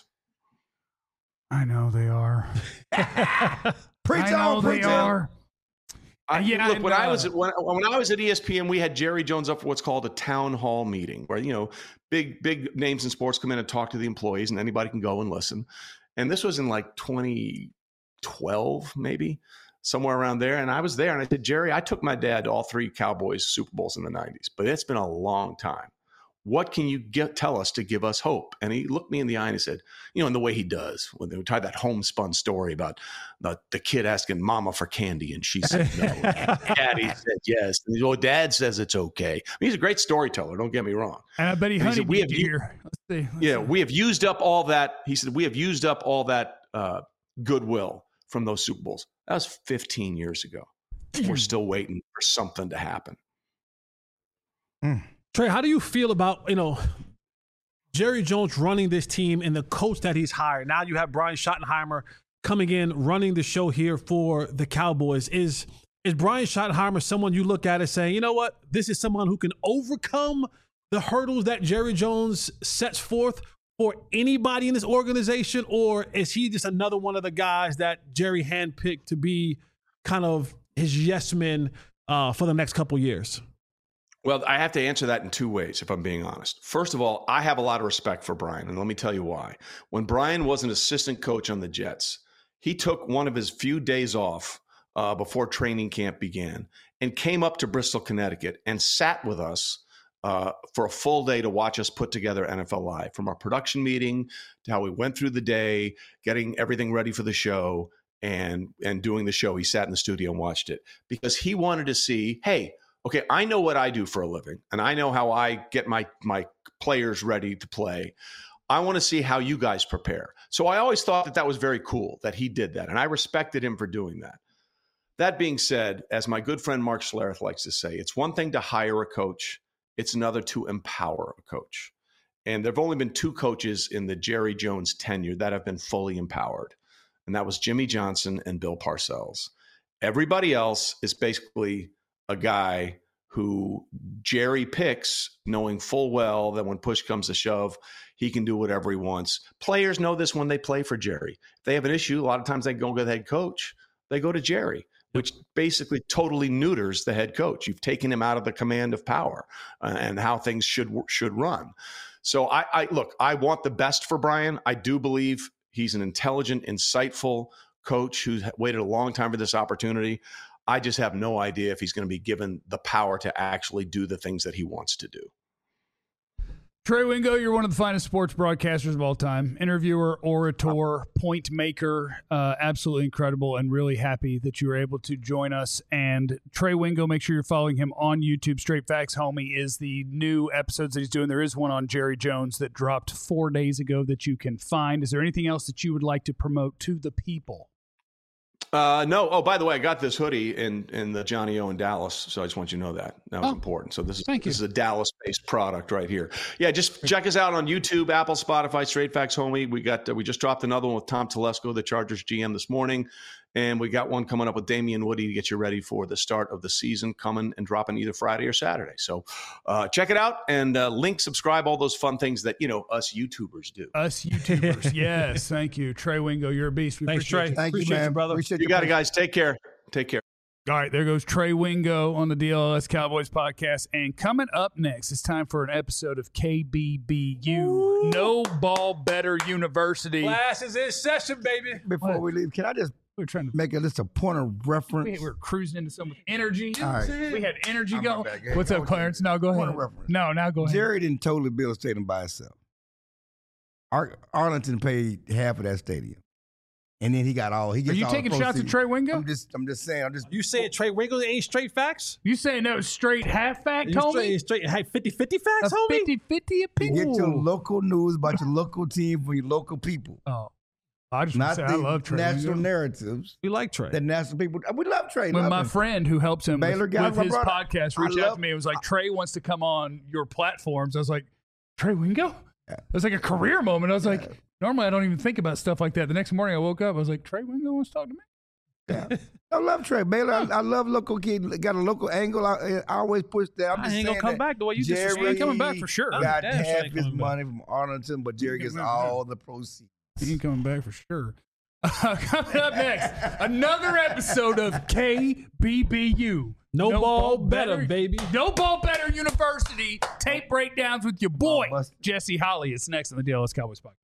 Speaker 1: I know they are.
Speaker 4: Preach
Speaker 1: I know
Speaker 4: on,
Speaker 1: they
Speaker 4: preach on.
Speaker 1: are.
Speaker 6: I,
Speaker 1: yeah,
Speaker 6: look, when
Speaker 1: and, uh,
Speaker 6: I was at, when, when I was at E S P N, we had Jerry Jones up for what's called a town hall meeting, where, you know, big big names in sports come in and talk to the employees, and anybody can go and listen. And this was in like twenty twelve, maybe somewhere around there. And I was there, and I said, Jerry, I took my dad to all three Cowboys Super Bowls in the nineties, but it's been a long time. What can you get, tell us to give us hope? And he looked me in the eye and he said, you know, in the way he does, when they tie that homespun story about the, the kid asking mama for candy and she said no. Daddy said yes. And oh, dad says it's okay. I mean, he's a great storyteller, don't get me wrong.
Speaker 1: And I bet he
Speaker 6: And he said,
Speaker 1: honeybeed
Speaker 6: we have
Speaker 1: you
Speaker 6: u-
Speaker 1: here. Let's see. Let's
Speaker 6: Yeah,
Speaker 1: see.
Speaker 6: we have used up all that. He said, we have used up all that uh, goodwill from those Super Bowls. That was fifteen years ago. We're still waiting for something to happen.
Speaker 4: Mm.
Speaker 2: Trey, how do you feel about, you know, Jerry Jones running this team and the coach that he's hired? Now you have Brian Schottenheimer coming in, running the show here for the Cowboys. Is is Brian Schottenheimer someone you look at and say, you know what, this is someone who can overcome the hurdles that Jerry Jones sets forth for anybody in this organization? Or is he just another one of the guys that Jerry handpicked to be kind of his yes men uh, for the next couple years?
Speaker 6: Well, I have to answer that in two ways, if I'm being honest. First of all, I have a lot of respect for Brian, and let me tell you why. When Brian was an assistant coach on the Jets, he took one of his few days off uh, before training camp began and came up to Bristol, Connecticut, and sat with us uh, for a full day to watch us put together N F L Live, from our production meeting to how we went through the day, getting everything ready for the show, and and doing the show. He sat in the studio and watched it because he wanted to see, hey, okay, I know what I do for a living, and I know how I get my my players ready to play. I want to see how you guys prepare. So I always thought that that was very cool that he did that, and I respected him for doing that. That being said, as my good friend Mark Schlereth likes to say, it's one thing to hire a coach. It's another to empower a coach. And there have only been two coaches in the Jerry Jones tenure that have been fully empowered, and that was Jimmy Johnson and Bill Parcells. Everybody else is basically a guy who Jerry picks, knowing full well that when push comes to shove, he can do whatever he wants. Players know this when they play for Jerry. If they have an issue, a lot of times they go to the head coach. They go to Jerry, which basically totally neuters the head coach. You've taken him out of the command of power uh, and how things should should run. So I, I look, I want the best for Brian. I do believe he's an intelligent, insightful coach who's waited a long time for this opportunity. I just have no idea if he's going to be given the power to actually do the things that he wants to do.
Speaker 1: Trey Wingo, you're one of the finest sports broadcasters of all time. Interviewer, orator, point maker, uh, absolutely incredible, and really happy that you were able to join us. And Trey Wingo, make sure you're following him on YouTube. Straight Facts Homie is the new episodes that he's doing. There is one on Jerry Jones that dropped four days ago that you can find. Is there anything else that you would like to promote to the people?
Speaker 6: Uh, no. Oh, by the way, I got this hoodie in, in the Johnny O in Dallas. So I just want you to know that. That was
Speaker 1: oh,
Speaker 6: important. So this is,
Speaker 1: thank you.
Speaker 6: this is a Dallas-based product right here. Yeah, just check us out on YouTube, Apple, Spotify, Straight Facts Homie. We got uh, we just dropped another one with Tom Telesco, the Chargers G M, this morning. And we got one coming up with Damian Woody to get you ready for the start of the season, coming and dropping either Friday or Saturday. So uh, check it out and uh, link, subscribe, all those fun things that, you know, us YouTubers do.
Speaker 1: Us YouTubers. Yes. Thank you. Trey Wingo, you're a beast. We
Speaker 2: Thanks,
Speaker 1: appreciate
Speaker 2: Trey.
Speaker 1: you.
Speaker 4: Thank
Speaker 2: Appreciate
Speaker 4: you, man.
Speaker 2: you, brother.
Speaker 4: Appreciate
Speaker 6: You got it, guys. Take care. Take care.
Speaker 1: All right, there goes Trey Wingo on the D L S Cowboys podcast. And coming up next, it's time for an episode of K B B U, Ooh. No Ball Better University.
Speaker 2: Class is in session, baby.
Speaker 4: Before
Speaker 1: What?
Speaker 4: we leave, can I just
Speaker 1: We're trying to
Speaker 4: make a just a point of reference?
Speaker 1: we were cruising into some energy.
Speaker 4: All right.
Speaker 1: We had energy
Speaker 4: I'm
Speaker 1: going.
Speaker 4: back. Hey,
Speaker 1: What's
Speaker 4: I
Speaker 1: up,
Speaker 4: was-
Speaker 1: Clarence? No, go
Speaker 4: Point
Speaker 1: ahead.
Speaker 4: of reference.
Speaker 1: No, now go ahead.
Speaker 4: Jerry didn't totally build a stadium by itself. Ar- Arlington paid half of that stadium, and then he got all. He
Speaker 1: Are
Speaker 4: gets
Speaker 1: you
Speaker 4: all
Speaker 1: taking
Speaker 4: the
Speaker 1: shots at
Speaker 4: proceeds.
Speaker 1: Trey Wingo?
Speaker 4: I'm just, I'm just saying. I'm just.
Speaker 2: You saying Trey Wingo ain't straight facts?
Speaker 1: You saying that was straight half fact,
Speaker 2: You
Speaker 1: homie?
Speaker 2: straight, straight hey, fifty-fifty
Speaker 1: A
Speaker 2: facts, homie?
Speaker 1: fifty-fifty
Speaker 4: You
Speaker 1: opinion.
Speaker 4: get your local news about your local team from your local people,
Speaker 1: Oh, I just want
Speaker 4: not
Speaker 1: to say
Speaker 4: the
Speaker 1: I love Trey
Speaker 4: national
Speaker 1: Wingo.
Speaker 4: narratives.
Speaker 2: We like Trey.
Speaker 4: The national people. We love Trey.
Speaker 1: When
Speaker 4: love
Speaker 1: my
Speaker 4: him.
Speaker 1: friend who helps him
Speaker 4: Baylor
Speaker 1: with,
Speaker 4: guy,
Speaker 1: with
Speaker 4: my
Speaker 1: his
Speaker 4: brother.
Speaker 1: podcast
Speaker 4: I
Speaker 1: reached out
Speaker 4: love-
Speaker 1: to me. It was like, Trey wants to come on your platforms. I was like, Trey Wingo? It was like a career moment. I was like, normally I don't even think about stuff like that. The next morning I woke up, I was like, Trey Wingo wants to talk to me?
Speaker 4: Yeah. I love Trey Baylor. I, I love local kid. Got a local angle. I, I always push that. I'm
Speaker 2: I
Speaker 4: just
Speaker 2: ain't
Speaker 4: saying
Speaker 2: gonna come
Speaker 4: that
Speaker 2: back the way you
Speaker 4: Jerry
Speaker 2: just
Speaker 1: ain't coming back for sure.
Speaker 4: Got
Speaker 2: Damn sure
Speaker 4: half
Speaker 2: ain't
Speaker 4: his
Speaker 2: coming back.
Speaker 4: money from Arlington, but Jerry gets
Speaker 1: coming back.
Speaker 4: all the proceeds.
Speaker 1: He ain't coming back for sure. Uh, coming up next, another episode of K B B U.
Speaker 2: No ball better, baby.
Speaker 1: No Ball Better University. Tape breakdowns with your boy,
Speaker 4: Oh, must-
Speaker 1: Jesse Holly. It's next on the D L S Cowboys podcast.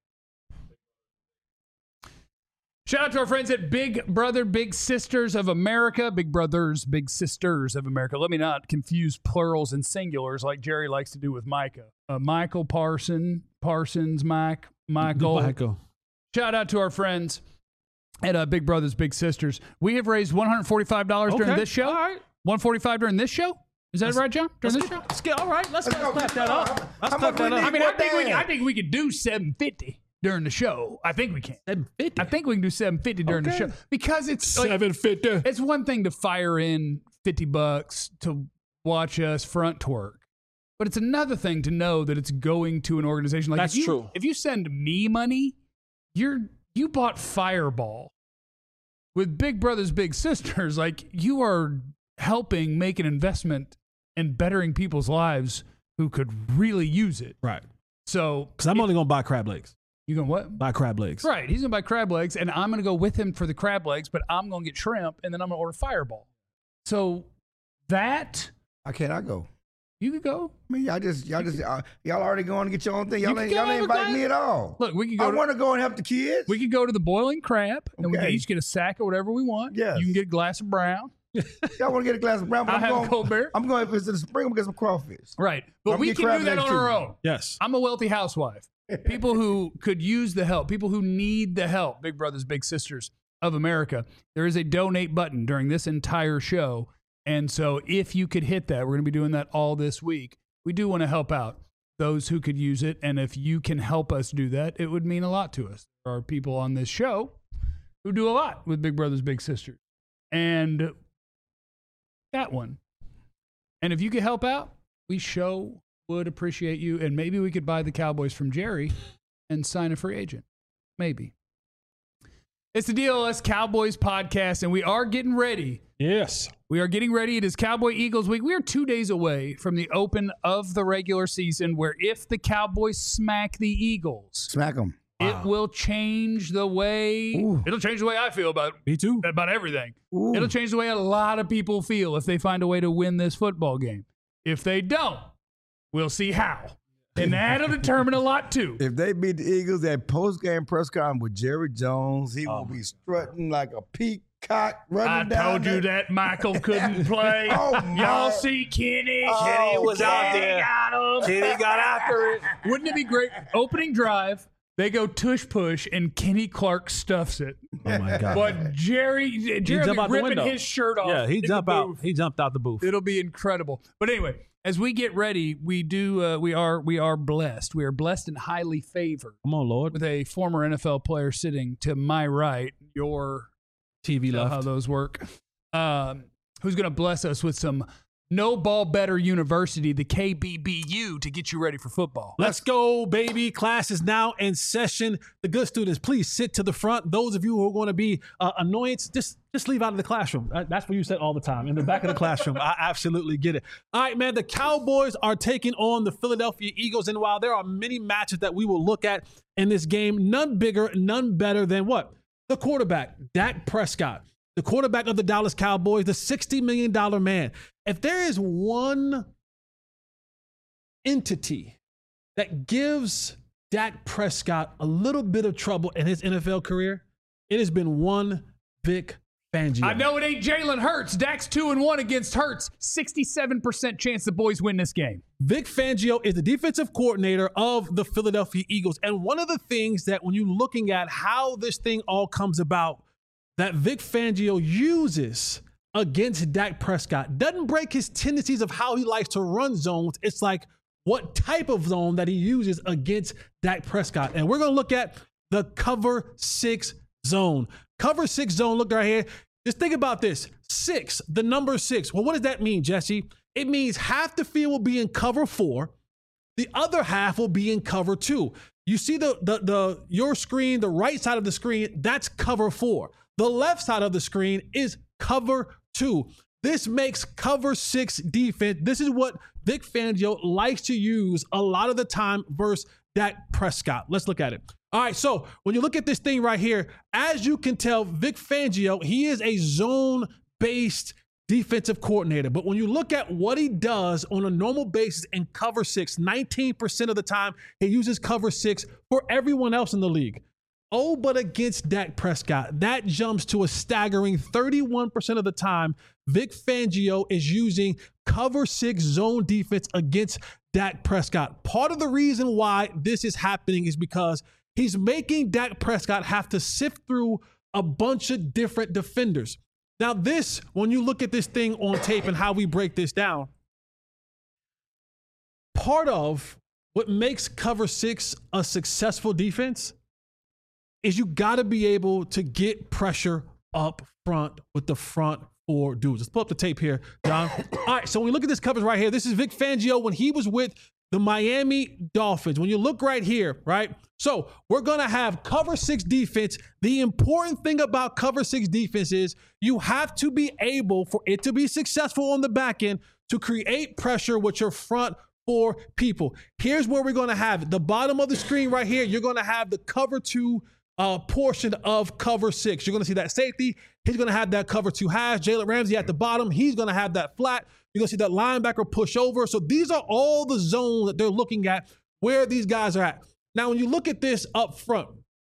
Speaker 1: Shout out to our friends at Big Brother, Big Sisters of America. Big Brothers, Big Sisters of America. Let me not confuse plurals and singulars like Jerry likes to do with Micah. Uh, Michael Parson, Parsons, Mike, Michael.
Speaker 2: Michael.
Speaker 1: Shout out to our friends at uh, Big Brothers, Big Sisters. We have raised one hundred forty-five dollars during
Speaker 2: Okay.
Speaker 1: this show.
Speaker 2: All right.
Speaker 1: one hundred forty-five dollars during this show? Is that right, John? During this
Speaker 2: Let's
Speaker 1: show?
Speaker 2: get, let's get, all right, let's,
Speaker 4: Let's
Speaker 2: let's
Speaker 4: go.
Speaker 2: clap that up. Let's
Speaker 4: How
Speaker 2: clap
Speaker 4: much we
Speaker 2: that
Speaker 4: need?
Speaker 2: up.
Speaker 1: I mean, I
Speaker 4: What
Speaker 1: think, we
Speaker 4: day?
Speaker 1: can, I think we could do seven hundred fifty dollars during the show. I think we can.
Speaker 2: seven fifty.
Speaker 1: I think we can do seven hundred fifty dollars during
Speaker 2: Okay.
Speaker 1: the show because it's like,
Speaker 2: seven fifty.
Speaker 1: it's one thing to fire in fifty bucks to watch us front twerk, but it's another thing to know that it's going to an organization. Like
Speaker 2: That's
Speaker 1: if you,
Speaker 2: true.
Speaker 1: If you send me money, you're you bought Fireball with Big Brothers Big Sisters. Like you are helping make an investment in bettering people's lives who could really use it.
Speaker 2: Right.
Speaker 1: So
Speaker 2: Because I'm only going to buy crab legs.
Speaker 1: you going what?
Speaker 2: Buy crab legs.
Speaker 1: Right. He's going to buy crab legs, and I'm going to go with him for the crab legs, but I'm going to get shrimp, and then I'm going to order Fireball. So that,
Speaker 4: How can I go?
Speaker 1: you could go.
Speaker 4: I mean, y'all just, y'all just, uh, y'all already going to get your own thing. Y'all
Speaker 1: You
Speaker 4: ain't,
Speaker 1: can
Speaker 4: y'all
Speaker 1: go
Speaker 4: ain't
Speaker 1: have a
Speaker 4: invite
Speaker 1: glass-
Speaker 4: me at all.
Speaker 1: Look, we could
Speaker 4: I
Speaker 1: go to,
Speaker 4: want to go and help the kids.
Speaker 1: we could go to the Boiling Crab, and we can
Speaker 4: Okay.
Speaker 1: each get a sack of whatever we want.
Speaker 4: Yes.
Speaker 1: You can get a glass of brown.
Speaker 4: Y'all want to get a glass of brown? But
Speaker 1: I'll
Speaker 4: I'm
Speaker 1: have
Speaker 4: going,
Speaker 1: a cold beer.
Speaker 4: I'm going, if it's in the spring, I'm going to get some crawfish.
Speaker 1: Right. But
Speaker 4: I'm
Speaker 1: we
Speaker 4: get
Speaker 1: can
Speaker 4: crab
Speaker 1: do that
Speaker 4: legs
Speaker 1: on our
Speaker 4: too.
Speaker 1: own.
Speaker 2: Yes.
Speaker 1: I'm a wealthy housewife. People who could use the help, people who need the help, Big Brothers, Big Sisters of America. There is a donate button during this entire show. And so if you could hit that, we're going to be doing that all this week. We do want to help out those who could use it. And if you can help us do that, it would mean a lot to us. There are people on this show who do a lot with Big Brothers, Big Sisters. And that one. And if you could help out, we show would appreciate you. And maybe we could buy the Cowboys from Jerry and sign a free agent. Maybe. It's the D L S Cowboys podcast, and we are getting ready.
Speaker 2: Yes.
Speaker 1: We are getting ready. It is Cowboy Eagles week. We are two days away from the open of the regular season, where if the Cowboys smack the Eagles,
Speaker 4: Smack them.
Speaker 1: it will change the way,
Speaker 4: Ooh.
Speaker 1: it'll change the way I feel about,
Speaker 2: Me too.
Speaker 1: about everything.
Speaker 4: Ooh.
Speaker 1: It'll change the way a lot of people feel if they find a way to win this football game. If they don't, we'll see how. And that'll determine a lot too.
Speaker 4: If they beat the Eagles, that post-game press conference with Jerry Jones, he
Speaker 2: Oh
Speaker 4: will be strutting like a peacock running
Speaker 1: I
Speaker 4: down
Speaker 1: told you
Speaker 4: there.
Speaker 1: that Michael couldn't play.
Speaker 4: Oh,
Speaker 1: Y'all
Speaker 4: my.
Speaker 1: see Kenny?
Speaker 4: Oh,
Speaker 2: Kenny was out
Speaker 1: Kenny
Speaker 2: there.
Speaker 1: got him.
Speaker 2: Kenny got after it.
Speaker 1: Wouldn't it be great? Opening drive, they go tush push, and Kenny Clark stuffs it.
Speaker 2: Oh my God.
Speaker 1: But Jerry, Jerry
Speaker 2: jump
Speaker 1: will be
Speaker 2: out the
Speaker 1: ripping
Speaker 2: window.
Speaker 1: his shirt off.
Speaker 2: Yeah, he
Speaker 1: in the
Speaker 2: jumped out.
Speaker 1: booth.
Speaker 2: He jumped out the booth.
Speaker 1: It'll be incredible. But anyway, as we get ready, we do. Uh, we are. We are blessed. We are blessed and highly favored
Speaker 2: Come on, Lord.
Speaker 1: with a former N F L player sitting to my right. Your
Speaker 2: T V
Speaker 1: you know
Speaker 2: left.
Speaker 1: how those work. Um, who's going to bless us with some No Ball Better University, the K B B U, to get you ready for football.
Speaker 2: Let's go, baby. Class is now in session. The good students, please sit to the front. Those of you who are going to be uh, annoyance, just, just leave out of the classroom. That's what you said all the time, in the back of the classroom. I absolutely get it. All right, man, the Cowboys are taking on the Philadelphia Eagles. And while there are many matches that we will look at in this game, none bigger, none better than what? The quarterback, Dak Prescott. The quarterback of the Dallas Cowboys, the sixty million dollars man. If there is one entity that gives Dak Prescott a little bit of trouble in his N F L career, it has been one Vic Fangio.
Speaker 1: I know it ain't Jalen Hurts. Dak's two and one against Hurts. sixty-seven percent chance the boys win this game.
Speaker 2: Vic Fangio is the defensive coordinator of the Philadelphia Eagles. And one of the things that when you're looking at how this thing all comes about, that Vic Fangio uses against Dak Prescott doesn't break his tendencies of how he likes to run zones. It's like what type of zone that he uses against Dak Prescott. And we're going to look at the cover six zone. Cover six zone, look right here. Just think about this. Six, the number six. Well, what does that mean, Jesse? It means half the field will be in cover four. The other half will be in cover two. You see the, the, the your screen, the right side of the screen, that's cover four. The left side of the screen is cover two. This makes cover six defense. This is what Vic Fangio likes to use a lot of the time versus Dak Prescott. Let's look at it. All right, so when you look at this thing right here, as you can tell, Vic Fangio, he is a zone-based defensive coordinator. But when you look at what he does on a normal basis in cover six, nineteen percent of the time, he uses cover six for everyone else in the league. Oh, but against Dak Prescott, that jumps to a staggering thirty-one percent of the time. Vic Fangio is using cover six zone defense against Dak Prescott. Part of the reason why this is happening is because he's making Dak Prescott have to sift through a bunch of different defenders. Now this, when you look at this thing on tape and how we break this down, part of what makes cover six a successful defense is you got to be able to get pressure up front with the front four dudes. Let's pull up the tape here, John. All right, so when we look at this coverage right here, this is Vic Fangio when he was with the Miami Dolphins. When you look right here, right? So we're going to have cover six defense. The important thing about cover six defense is you have to be able, for it to be successful on the back end, to create pressure with your front four people. Here's where we're going to have it. The bottom of the screen right here, you're going to have the cover two Uh, portion of cover six. You're going to see that safety. He's going to have that cover two hash. Jalen Ramsey at the bottom. He's going to have that flat. You're going to see that linebacker push over. So these are all the zones that they're looking at where these guys are at. Now, when you look at this up front,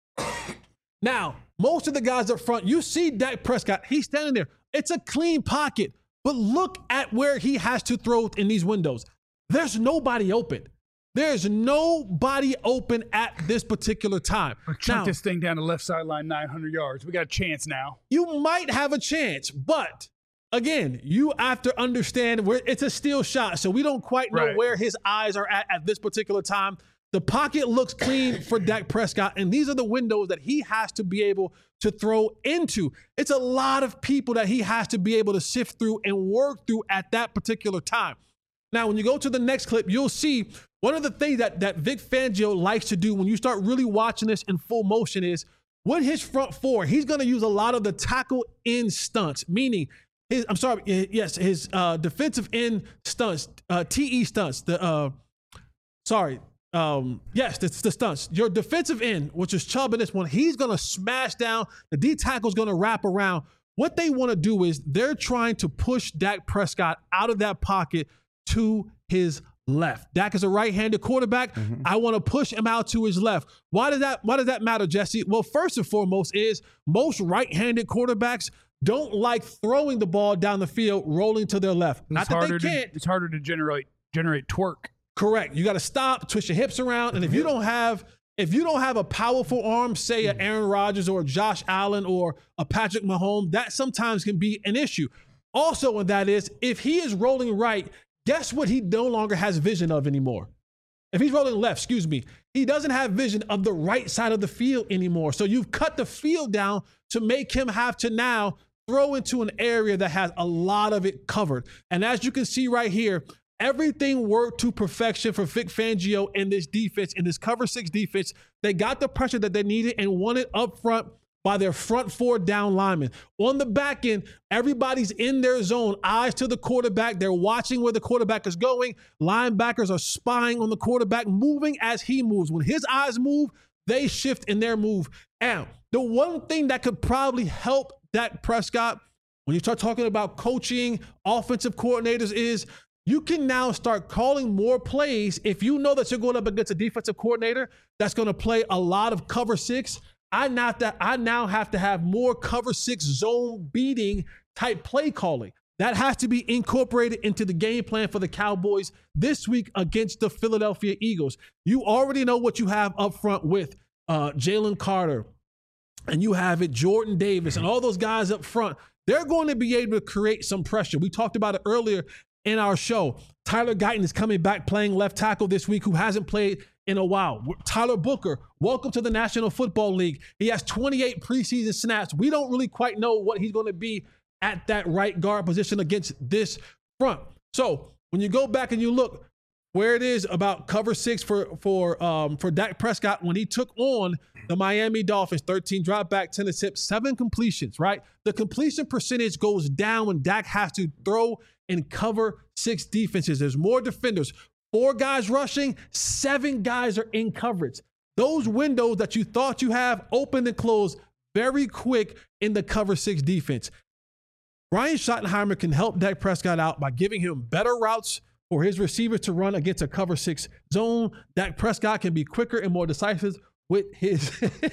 Speaker 2: now, most of the guys up front, you see Dak Prescott. He's standing there. It's a clean pocket. But look at where he has to throw in these windows. There's nobody open. There's nobody open at this particular time.
Speaker 1: Or chuck now, this thing down the left sideline nine hundred yards. We got a chance now.
Speaker 2: You might have a chance, but again, you have to understand where it's a steal shot, so we don't quite know
Speaker 1: right.
Speaker 2: where his eyes are at at this particular time. The pocket looks clean for Dak Prescott, and these are the windows that he has to be able to throw into. It's a lot of people that he has to be able to sift through and work through at that particular time. Now, when you go to the next clip, you'll see one of the things that, that Vic Fangio likes to do when you start really watching this in full motion is with his front four, he's going to use a lot of the tackle end stunts, meaning his, I'm sorry, yes, his uh, defensive end stunts, uh, T E stunts, the, uh, sorry, um, yes, the, the stunts. Your defensive end, which is Chubb in this one, he's going to smash down. The D tackle's going to wrap around. What they want to do is they're trying to push Dak Prescott out of that pocket to his left. Dak is a right-handed quarterback. Mm-hmm. I want to push him out to his left. Why does that, why does that matter, Jesse? Well, first and foremost is most right-handed quarterbacks don't like throwing the ball down the field, rolling to their left. Not that they can't.
Speaker 1: To, it's harder to generate generate twerk.
Speaker 2: Correct. You got to stop, twist your hips around, and if you don't have if you don't have a powerful arm, say an Aaron Rodgers or a Josh Allen or a Patrick Mahomes, that sometimes can be an issue. Also, and that is if he is rolling right, guess what he no longer has vision of anymore? If he's rolling left, excuse me, he doesn't have vision of the right side of the field anymore. So you've cut the field down to make him have to now throw into an area that has a lot of it covered. And as you can see right here, everything worked to perfection for Vic Fangio in this defense, in this cover six defense. They got the pressure that they needed and won it up front by their front four down linemen. On the back end, everybody's in their zone, eyes to the quarterback. They're watching where the quarterback is going. Linebackers are spying on the quarterback, moving as he moves. When his eyes move, they shift in their move. And the one thing that could probably help Dak Prescott when you start talking about coaching, offensive coordinators is you can now start calling more plays. If you know that you're going up against a defensive coordinator that's going to play a lot of cover six, I not that I now have to have more cover six zone beating type play calling. That has to be incorporated into the game plan for the Cowboys this week against the Philadelphia Eagles. You already know what you have up front with uh, Jalen Carter, and you have it Jordan Davis and all those guys up front. They're going to be able to create some pressure. We talked about it earlier in our show. Tyler Guyton is coming back playing left tackle this week, who hasn't played in a while. Tyler Booker, welcome to the National Football League. He has twenty-eight preseason snaps. We don't really quite know what he's going to be at that right guard position against this front. So when you go back and you look where it is about cover six for for um, for Dak Prescott when he took on the Miami Dolphins, thirteen drop back, ten attempts, seven completions, right? The completion percentage goes down when Dak has to throw and cover six defenses. There's more defenders. Four guys rushing, seven guys are in coverage. Those windows that you thought you have open and close very quick in the cover six defense. Brian Schottenheimer can help Dak Prescott out by giving him better routes for his receivers to run against a cover six zone. Dak Prescott can be quicker and more decisive with his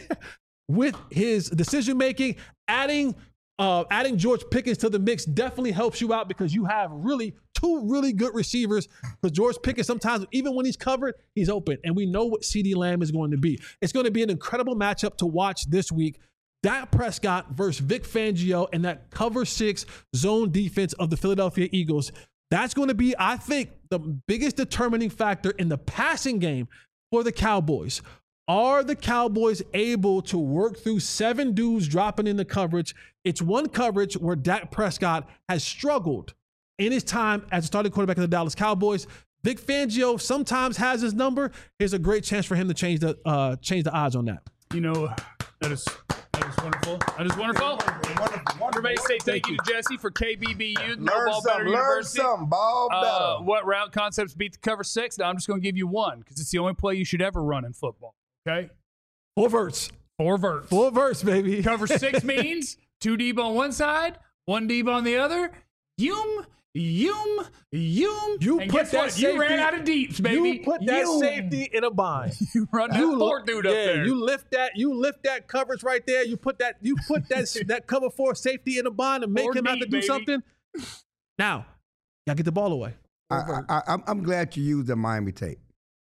Speaker 2: with his decision making. Adding uh, adding George Pickens to the mix definitely helps you out because you have really two really good receivers. Because George Pickens sometimes, even when he's covered, he's open, and we know what CeeDee Lamb is going to be. It's going to be an incredible matchup to watch this week. Dak Prescott versus Vic Fangio and that cover six zone defense of the Philadelphia Eagles. That's going to be, I think, the biggest determining factor in the passing game for the Cowboys. Are the Cowboys able to work through seven dudes dropping in the coverage? It's one coverage where Dak Prescott has struggled in his time as a starting quarterback of the Dallas Cowboys. Vic Fangio sometimes has his number. Here's a great chance for him to change the uh, change the odds on that.
Speaker 1: You know, that is that is wonderful. That is wonderful.
Speaker 4: Wonderful, wonderful.
Speaker 1: Everybody say thank, thank you to Jesse for K B B U.
Speaker 4: Learn
Speaker 1: No Ball
Speaker 4: something,
Speaker 1: Better
Speaker 4: learn
Speaker 1: University.
Speaker 4: something, ball better.
Speaker 1: Uh, what route concepts beat the cover six? Now I'm just going to give you one because it's the only play you should ever run in football. Okay?
Speaker 2: Four verts.
Speaker 1: Four verts.
Speaker 2: Four verts, baby.
Speaker 1: Cover six means two deep on one side, one deep on the other. Yum, yum, yum.
Speaker 2: You
Speaker 1: and
Speaker 2: put
Speaker 1: guess
Speaker 2: that
Speaker 1: what?
Speaker 2: safety,
Speaker 1: You ran out of deeps, baby.
Speaker 2: You put that
Speaker 1: Yum.
Speaker 2: safety in a bind.
Speaker 1: You run that
Speaker 2: You
Speaker 1: four
Speaker 2: li-
Speaker 1: dude up
Speaker 2: yeah,
Speaker 1: there.
Speaker 2: You lift that. You lift that coverage right there. You put that. You put that that cover four safety in a bind and make
Speaker 1: Four
Speaker 2: him have to
Speaker 1: deep,
Speaker 2: do
Speaker 1: baby.
Speaker 2: something. Now, gotta get the ball away.
Speaker 4: I, I, I'm, I'm glad you used the Miami tape.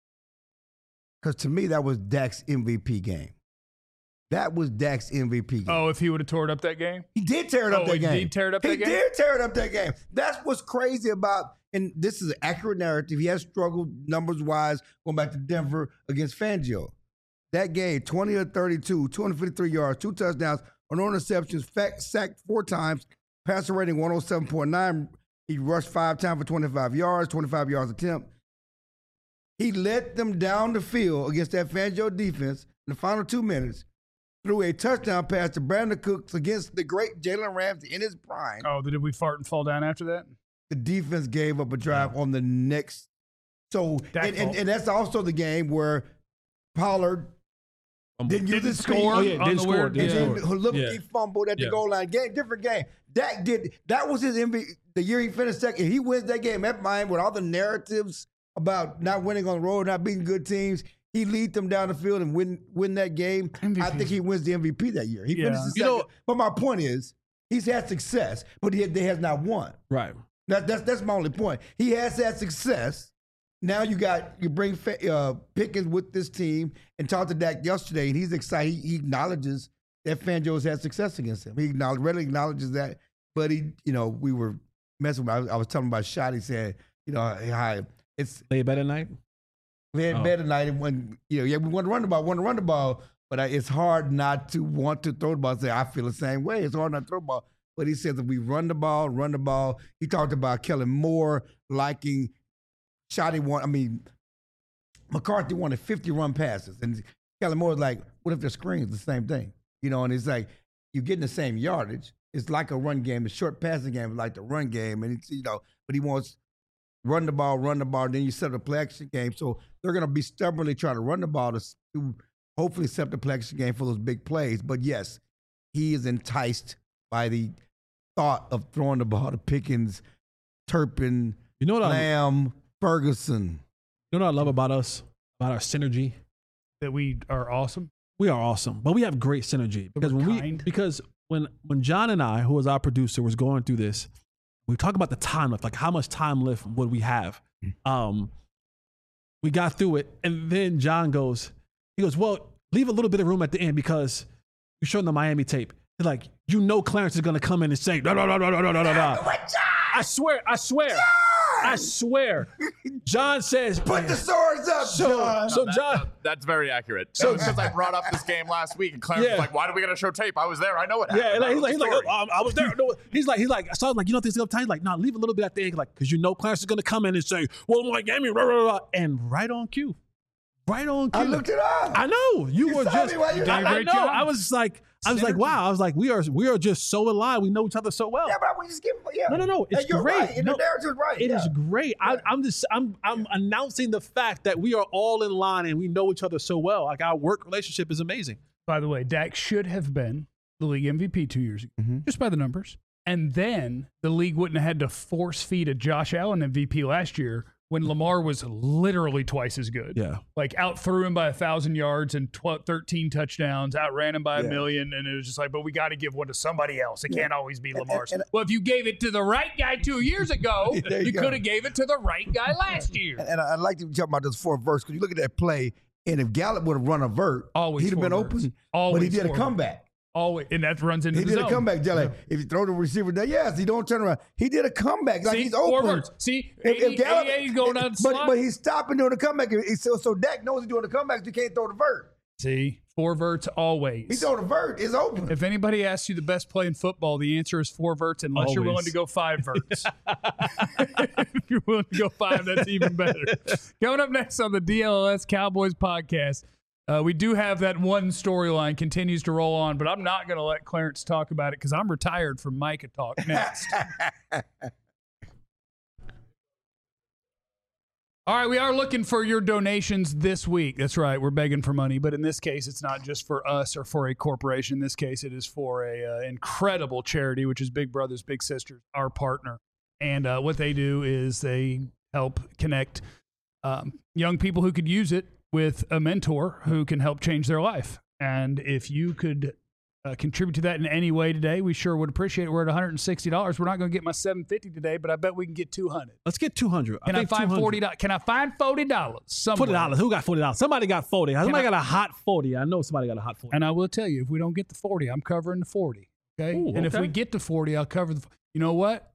Speaker 4: Because to me, that was Dak's M V P game. That was Dak's M V P game.
Speaker 1: Oh, if he would have tore it up that game?
Speaker 4: He did tear it up
Speaker 1: Oh,
Speaker 4: that
Speaker 1: he
Speaker 4: game.
Speaker 1: did tear it up
Speaker 4: he
Speaker 1: that game?
Speaker 4: did tear it up that game. That's what's crazy about, and this is an accurate narrative. He has struggled numbers-wise going back to Denver against Fangio. That game, twenty of thirty-two, two hundred fifty-three yards, two touchdowns, no interceptions, fact, sacked four times, passer rating one oh seven point nine. He rushed five times for twenty-five yards, twenty-five yards attempt. He let them down the field against that Fangio defense in the final two minutes. Threw a touchdown pass to Brandon Cooks against the great Jalen Ramsey in his prime.
Speaker 1: Oh, did we fart and fall down after that?
Speaker 4: The defense gave up a drive on the next. So,
Speaker 1: Dak
Speaker 4: and, and,
Speaker 1: fault.
Speaker 4: and that's also the game where Pollard didn't use
Speaker 1: Didn't
Speaker 4: his
Speaker 1: score.
Speaker 4: speed.
Speaker 2: Oh yeah,
Speaker 1: on
Speaker 2: didn't
Speaker 1: the
Speaker 2: score.
Speaker 1: weird-
Speaker 2: Didn't
Speaker 4: And
Speaker 1: Yeah.
Speaker 4: then
Speaker 2: score.
Speaker 4: look,
Speaker 2: Yeah.
Speaker 4: he fumbled at the
Speaker 2: Yeah.
Speaker 4: goal line. Game, different game. Dak did. That was his M V P. The year he finished second, he wins that game at Miami with all the narratives about not winning on the road, not beating good teams. He lead them down the field and win win that game.
Speaker 1: M V P.
Speaker 4: I think he wins the M V P that year. He
Speaker 1: Yeah.
Speaker 4: finishes
Speaker 2: You
Speaker 4: second.
Speaker 2: know-
Speaker 4: but my point is, he's had success, but he, he has not won.
Speaker 2: Right.
Speaker 4: That, that's that's my only point. He has had success. Now you got you bring uh, Pickens with this team and talked to Dak yesterday, and he's excited. He, he acknowledges that Fangio has had success against him. He acknowledge, readily acknowledges that. But he, you know, we were messing with. I was, I was telling him about shot. He said, you know, how it's
Speaker 2: Lay better night.
Speaker 4: we had
Speaker 2: Oh.
Speaker 4: bed tonight, and when you know, yeah, we want to run the ball, want to run the ball, but I, it's hard not to want to throw the ball. And say I feel the same way. It's hard not to throw the ball. But he says if we run the ball, run the ball. He talked about Kellen Moore liking shot he won. I mean, McCarthy wanted fifty run passes. And Kellen Moore was like, what if the screen's the same thing? You know, and it's like, you're getting the same yardage. It's like a run game. The short passing game is like the run game. And, it's, you know, but he wants run the ball, run the ball. Then you set up a play action game. So they're going to be stubbornly trying to run the ball to, to hopefully set up the play action game for those big plays. But, yes, he is enticed by the thought of throwing the ball to Pickens, Turpin,
Speaker 2: You know what I,
Speaker 4: Lamb, Ferguson.
Speaker 2: you know what I love about us, about our synergy?
Speaker 1: That we are awesome.
Speaker 2: We are awesome, but we have great synergy because when we
Speaker 1: kind.
Speaker 2: because when when John and I, who was our producer, was going through this, we talk about the time left, like how much time left would we have. Um, we got through it, and then John goes, he goes, well, leave a little bit of room at the end because you're showing the Miami tape. He's like, you know, Clarence is gonna come in and say, da da da da da da da da. I swear, I swear, I swear. John says,
Speaker 4: Put the swords up,
Speaker 2: so,
Speaker 4: John.
Speaker 2: so
Speaker 5: That-
Speaker 2: John.
Speaker 5: that- that's very accurate.
Speaker 2: So-
Speaker 5: So because I brought up this game last week, and Clarence
Speaker 2: Yeah.
Speaker 5: was like, "Why do we got to show tape? I was there. I know what happened."
Speaker 2: Yeah, like,
Speaker 5: I
Speaker 2: he's
Speaker 5: know
Speaker 2: like,
Speaker 5: the
Speaker 2: he's like,
Speaker 5: story."
Speaker 2: oh, I was there. No, he's like, he's like, so I was like, you know, this is time. He's like, no, leave a little bit at the end, like, because you know, Clarence is gonna come in and say, well, my game, blah, blah, blah, and right on cue, right on cue.
Speaker 4: I looked it up.
Speaker 2: I know you,
Speaker 4: You
Speaker 2: were
Speaker 4: saw
Speaker 2: just.
Speaker 4: me while you
Speaker 2: I,
Speaker 4: did a
Speaker 2: I
Speaker 1: great
Speaker 2: know.
Speaker 1: job.
Speaker 2: I was just like, I was like, wow. I was like, we are, we are just so aligned. We know each other so well.
Speaker 4: Yeah, but we just give yeah.
Speaker 2: No, no, no. It's
Speaker 4: And you're
Speaker 2: great.
Speaker 4: right. And
Speaker 2: No,
Speaker 4: the narrative's right.
Speaker 2: It
Speaker 4: yeah.
Speaker 2: is great. I, I'm just, I'm, I'm announcing the fact that we are all in line and we know each other so well. Like our work relationship is amazing.
Speaker 1: By the way, Dak should have been the league M V P two years ago,
Speaker 4: Mhm.
Speaker 1: just by the numbers. And then the league wouldn't have had to force feed a Josh Allen M V P last year when Lamar was literally twice as good.
Speaker 2: Yeah.
Speaker 1: Like out threw him by a thousand yards and twelve, thirteen touchdowns, outran him by a
Speaker 4: Yeah.
Speaker 1: million. And it was just like, but we got to give one to somebody else. It
Speaker 4: Yeah.
Speaker 1: can't always be
Speaker 4: And-
Speaker 1: Lamar's.
Speaker 4: and-
Speaker 1: well, if you gave it to the right guy two years ago,
Speaker 4: There you
Speaker 1: you
Speaker 4: go.
Speaker 1: could have gave it to the right guy last year.
Speaker 4: And, and I- I'd like to talk about this fourth verse because you look at that play, and if Gallup would have run a vert,
Speaker 1: Always
Speaker 4: he'd have been
Speaker 1: four
Speaker 4: open.
Speaker 1: verts.
Speaker 4: But he
Speaker 1: Always
Speaker 4: did a
Speaker 1: four
Speaker 4: comeback.
Speaker 1: Always, and that runs into
Speaker 4: He
Speaker 1: the
Speaker 4: did
Speaker 1: zone.
Speaker 4: a comeback, Jelly. If you throw the receiver there, yes, he don't turn around. He did a comeback. Like
Speaker 1: See,
Speaker 4: he's
Speaker 1: four
Speaker 4: open.
Speaker 1: verts. See,
Speaker 4: If, if
Speaker 1: eighty,
Speaker 4: Gallup,
Speaker 1: eighty-eight going down the
Speaker 4: but,
Speaker 1: slot.
Speaker 4: but he's stopping doing the comeback. He- So, so Dak knows he's doing the comeback. So he can't throw the vert.
Speaker 1: See, four verts always.
Speaker 4: He throw the vert. It's open.
Speaker 1: If anybody asks you the best play in football, the answer is four verts, unless you're willing
Speaker 2: Always.
Speaker 1: to go five verts. If you're willing to go five, that's even better. Coming up next on the D L S Cowboys podcast, uh, we do have that one storyline continues to roll on, but I'm not going to let Clarence talk about it because I'm retired from Micah Talk next. All right, we are looking for your donations this week. That's right, we're begging for money, but in this case, it's not just for us or for a corporation. In this case, it is for a uh, incredible charity, which is Big Brothers Big Sisters, our partner. And uh, what they do is they help connect um, young people who could use it with a mentor who can help change their life. And if you could uh, contribute to that in any way today, we sure would appreciate it. We're at one hundred sixty dollars. We're not going to get my seven hundred fifty dollars today, but I bet we can get two hundred dollars.
Speaker 2: Let's get two hundred.
Speaker 1: Can I,
Speaker 2: think
Speaker 1: find
Speaker 2: two hundred.
Speaker 1: forty dollars? Can I find forty dollars somewhere?
Speaker 2: Forty dollars. Who got forty dollars? Somebody got forty. Somebody
Speaker 1: I-
Speaker 2: got a hot forty. I know somebody got a hot forty.
Speaker 1: And I will tell you, if we don't get the forty, I'm covering the forty. Okay.
Speaker 2: Ooh,
Speaker 1: and if
Speaker 2: okay.
Speaker 1: we get to forty, I'll cover the. You know what?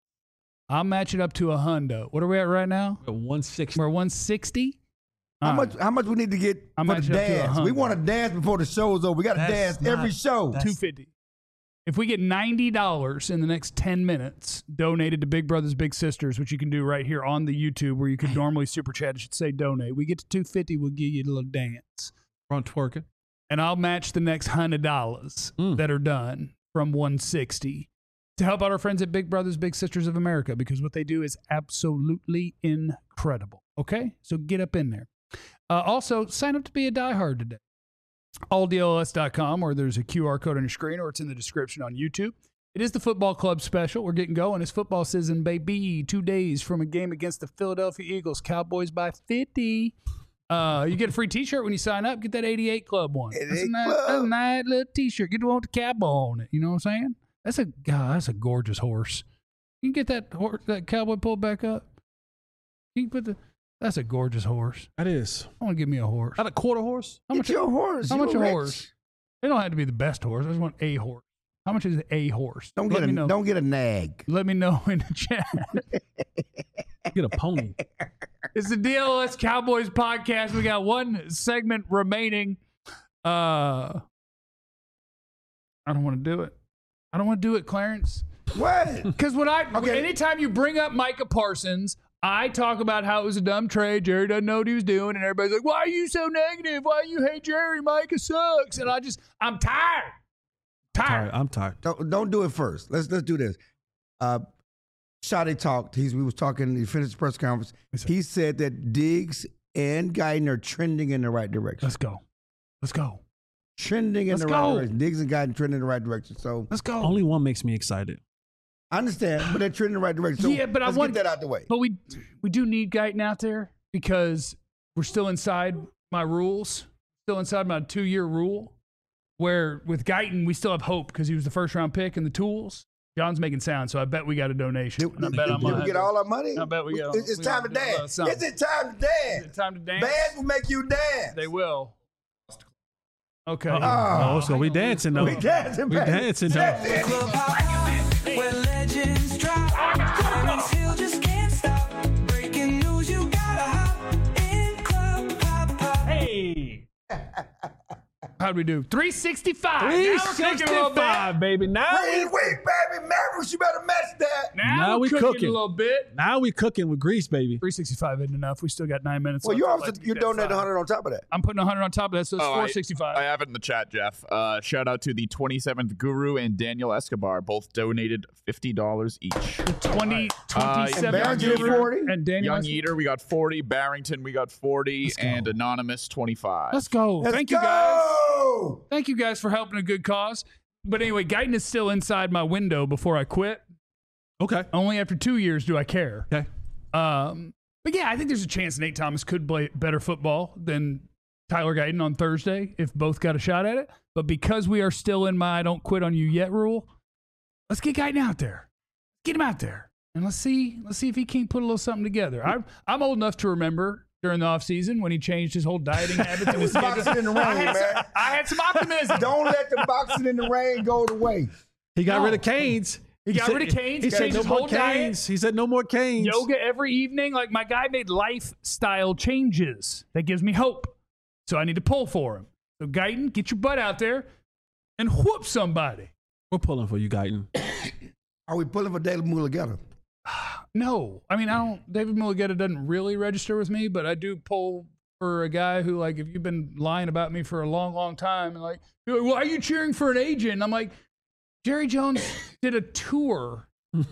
Speaker 1: I'll match it up to a hundo. What are we at right now?
Speaker 2: One sixty.
Speaker 1: We're one sixty.
Speaker 4: How much? How much we need to get
Speaker 1: I'm
Speaker 4: for the
Speaker 1: matching up to a
Speaker 4: dance? We
Speaker 1: hundred.
Speaker 4: want to dance before the show is over. We got to
Speaker 2: That's
Speaker 4: dance
Speaker 2: not-
Speaker 4: every show.
Speaker 2: that's-
Speaker 1: two fifty. If we get ninety dollars in the next ten minutes donated to Big Brothers Big Sisters, which you can do right here on the YouTube where you could normally super chat, it should say donate. We get to two fifty, we'll give you a little dance.
Speaker 2: Front twerking.
Speaker 1: And I'll match the next one hundred dollars
Speaker 2: Mm.
Speaker 1: that are done from one sixty to help out our friends at Big Brothers Big Sisters of America, because what they do is absolutely incredible. Okay? So get up in there. Uh, also, sign up to be a diehard today. all D L S dot com, or there's a Q R code on your screen, or it's in the description on YouTube. It is the football club special. We're getting going. It's football season, baby. Two days from a game against the Philadelphia Eagles. Cowboys by fifty. Uh, you get a free T-shirt when you sign up. Get that eighty-eight Club one. That's a
Speaker 4: eighty-eight
Speaker 1: nice,
Speaker 4: Club.
Speaker 1: that's a nice little T-shirt. Get the one with the cowboy on it. You know what I'm saying? That's a God. That's a gorgeous horse. You can get that horse, that cowboy pulled back up. You can put the. That's a gorgeous horse.
Speaker 2: That is.
Speaker 1: I want to give me a horse.
Speaker 2: Not a quarter horse.
Speaker 1: How
Speaker 4: Get
Speaker 1: much?
Speaker 4: your horse.
Speaker 1: How
Speaker 4: You
Speaker 1: much a
Speaker 4: rich.
Speaker 1: horse? They don't have to be the best horse. I just want a horse. How much is a horse?
Speaker 4: Don't
Speaker 1: Let
Speaker 4: get a
Speaker 1: me know.
Speaker 4: don't get a nag.
Speaker 1: Let me know in the chat.
Speaker 2: Get a pony.
Speaker 1: It's the D L S Cowboys podcast. We got one segment remaining. Uh, I don't want to do it. I don't want to do it, Clarence.
Speaker 4: What?
Speaker 1: Because when I,
Speaker 4: Okay.
Speaker 1: anytime you bring up Micah Parsons, I talk about how it was a dumb trade. Jerry doesn't know what he was doing, and everybody's like, "Why are you so negative? Why you hate Jerry? Micah sucks." And I just, I'm tired. Tired.
Speaker 2: Tired. I'm tired.
Speaker 4: Don't, don't do it first. Let's let's do this. Uh, Shotty talked. He's, we was talking. He finished the press conference. He said that Diggs and Guyton are trending in the right direction.
Speaker 1: Let's go. Let's go.
Speaker 4: Trending in
Speaker 1: Let's
Speaker 4: the
Speaker 1: go.
Speaker 4: right direction. Diggs and Guyton trending in the right direction. So
Speaker 1: Let's go.
Speaker 2: Only one makes me excited.
Speaker 4: I understand, but they're trending in the right direction. So
Speaker 1: Yeah, but I
Speaker 4: let's
Speaker 1: want-
Speaker 4: get that out the way.
Speaker 1: But we we do need Guyton out there because we're still inside my rules, still inside my two-year rule, where with Guyton, we still have hope because he was the first-round pick and the tools. John's making sound, so I bet we got a donation.
Speaker 4: Did,
Speaker 1: And I
Speaker 4: did-
Speaker 1: bet
Speaker 4: did
Speaker 1: I'm
Speaker 4: we
Speaker 1: gonna
Speaker 4: get
Speaker 1: have-
Speaker 4: all our money?
Speaker 1: I bet we get all-
Speaker 4: It's, it's
Speaker 1: we
Speaker 4: time to
Speaker 1: gotta do a little
Speaker 4: dance.
Speaker 1: something.
Speaker 4: Is it time to dance?
Speaker 1: Is it time to dance?
Speaker 4: Bands will make you dance.
Speaker 1: They will. Okay.
Speaker 2: Uh-oh. Oh, so we dancing though.
Speaker 4: We dancing,
Speaker 2: We
Speaker 4: baby.
Speaker 2: dancing though.
Speaker 4: That's it.
Speaker 7: Where legends drop, Clarence Hill just can't stop. Breaking news, you gotta hop in club pop pop.
Speaker 1: Hey. How'd we do? three sixty-five.
Speaker 2: three
Speaker 1: Now we're cooking a little bit.
Speaker 2: sixty-five, baby. Now
Speaker 4: Wait,
Speaker 2: we,
Speaker 4: wait, baby. Mavericks, you better match that.
Speaker 1: Now,
Speaker 2: Now
Speaker 1: we're
Speaker 2: we
Speaker 1: cooking,
Speaker 2: cooking.
Speaker 1: a little bit.
Speaker 2: now we cooking with grease, baby.
Speaker 1: three sixty-five isn't enough. We still got nine minutes
Speaker 4: Well,
Speaker 1: left.
Speaker 4: you
Speaker 1: I'd
Speaker 4: also
Speaker 1: like to
Speaker 4: you
Speaker 1: get that
Speaker 4: donate
Speaker 1: five.
Speaker 4: one hundred on top of that.
Speaker 1: I'm putting one hundred on top of that, so it's
Speaker 5: Oh, I-
Speaker 1: four sixty-five.
Speaker 5: I have it in the chat, Jeff. Uh, shout out to the twenty-seventh Guru and Daniel Escobar. Both donated fifty dollars each.
Speaker 1: twenty,
Speaker 5: Uh,
Speaker 1: twenty-seven.
Speaker 4: and Barrington
Speaker 1: Yeater
Speaker 4: forty.
Speaker 1: And Daniel.
Speaker 5: Young
Speaker 1: Escobar.
Speaker 5: Eater, we got forty. Barrington, we got forty.
Speaker 1: Let's go.
Speaker 5: And Anonymous, twenty-five.
Speaker 1: Let's go.
Speaker 4: Let's
Speaker 1: Thank
Speaker 4: go.
Speaker 1: you guys. Thank you guys for helping a good cause. But anyway, Guyton is still inside my window before I quit.
Speaker 2: Okay.
Speaker 1: Only after two years do I care.
Speaker 2: Okay.
Speaker 1: Um, but yeah, I think there's a chance Nate Thomas could play better football than Tyler Guyton on Thursday if both got a shot at it. But because we are still in my I don't quit on you yet rule, let's get Guyton out there. Get him out there. And let's see, let's see if he can't put a little something together. I'm I'm old enough to remember during the offseason when he changed his whole dieting habits and his
Speaker 4: Boxing in the
Speaker 1: I
Speaker 4: rain,
Speaker 1: had some-
Speaker 4: man.
Speaker 1: I had some optimism.
Speaker 4: Don't let the boxing in the rain go to waste.
Speaker 2: He got
Speaker 1: No.
Speaker 2: rid of Canes.
Speaker 1: He got
Speaker 2: said-
Speaker 1: rid of Canes.
Speaker 2: He
Speaker 1: He
Speaker 2: said
Speaker 1: changed
Speaker 2: no
Speaker 1: his
Speaker 2: more
Speaker 1: whole diet.
Speaker 2: Canes. He said no more Canes.
Speaker 1: Yoga every evening. Like my guy made lifestyle changes. That gives me hope. So I need to pull for him. So Guyton, get your butt out there and whoop somebody.
Speaker 2: We're pulling for you, Guyton.
Speaker 4: Are we pulling for David Mulligetta?
Speaker 1: No, I mean I don't. David Mulligetta doesn't really register with me, but I do pull for a guy who, like, if you've been lying about me for a long, long time, and like, you're like, why are you cheering for an agent? And I'm like, Jerry Jones did a tour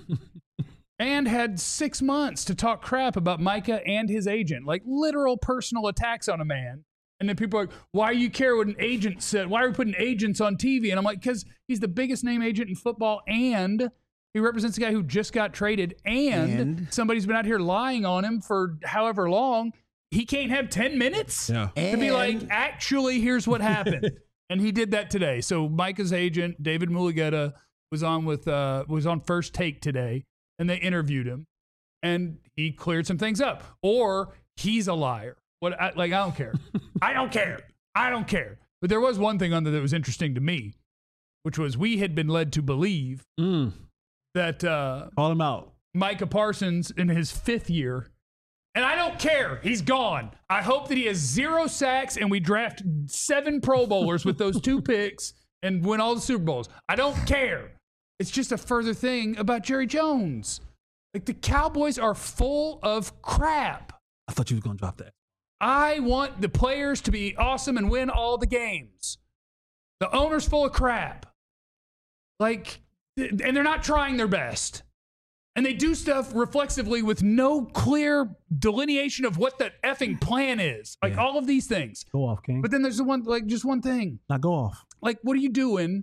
Speaker 1: and had six months to talk crap about Micah and his agent, like literal personal attacks on a man. And then people are like, why do you care what an agent said? Why are we putting agents on T V? And I'm like, because he's the biggest name agent in football, and he represents a guy who just got traded, and,
Speaker 4: And?
Speaker 1: somebody's been out here lying on him for however long. He can't have ten minutes
Speaker 2: Yeah.
Speaker 1: to be like,
Speaker 4: And-
Speaker 1: actually, here's what happened. And he did that today. So Micah's agent, David Mulligetta, was on with uh, was on First Take today, and they interviewed him, and he cleared some things up. Or he's a liar. What? I, like I don't care. I don't care. I don't care. But there was one thing on there that was interesting to me, which was we had been led to believe
Speaker 2: Mm.
Speaker 1: that uh,
Speaker 2: Call him out.
Speaker 1: Micah Parsons in his fifth year. And I don't care. He's gone. I hope that he has zero sacks and we draft seven Pro Bowlers with those two picks and win all the Super Bowls. I don't care. It's just a further thing about Jerry Jones. Like, the Cowboys are full of crap.
Speaker 2: I thought you was gonna drop that.
Speaker 1: I want the players to be awesome and win all the games. The owner's full of crap. Like, th- and they're not trying their best. And they do stuff reflexively with no clear delineation of what the effing plan is. Like,
Speaker 2: Yeah.
Speaker 1: all of these things.
Speaker 2: Go off, King.
Speaker 1: But then there's the one, like, just one thing.
Speaker 2: Now go off.
Speaker 1: Like, what are you doing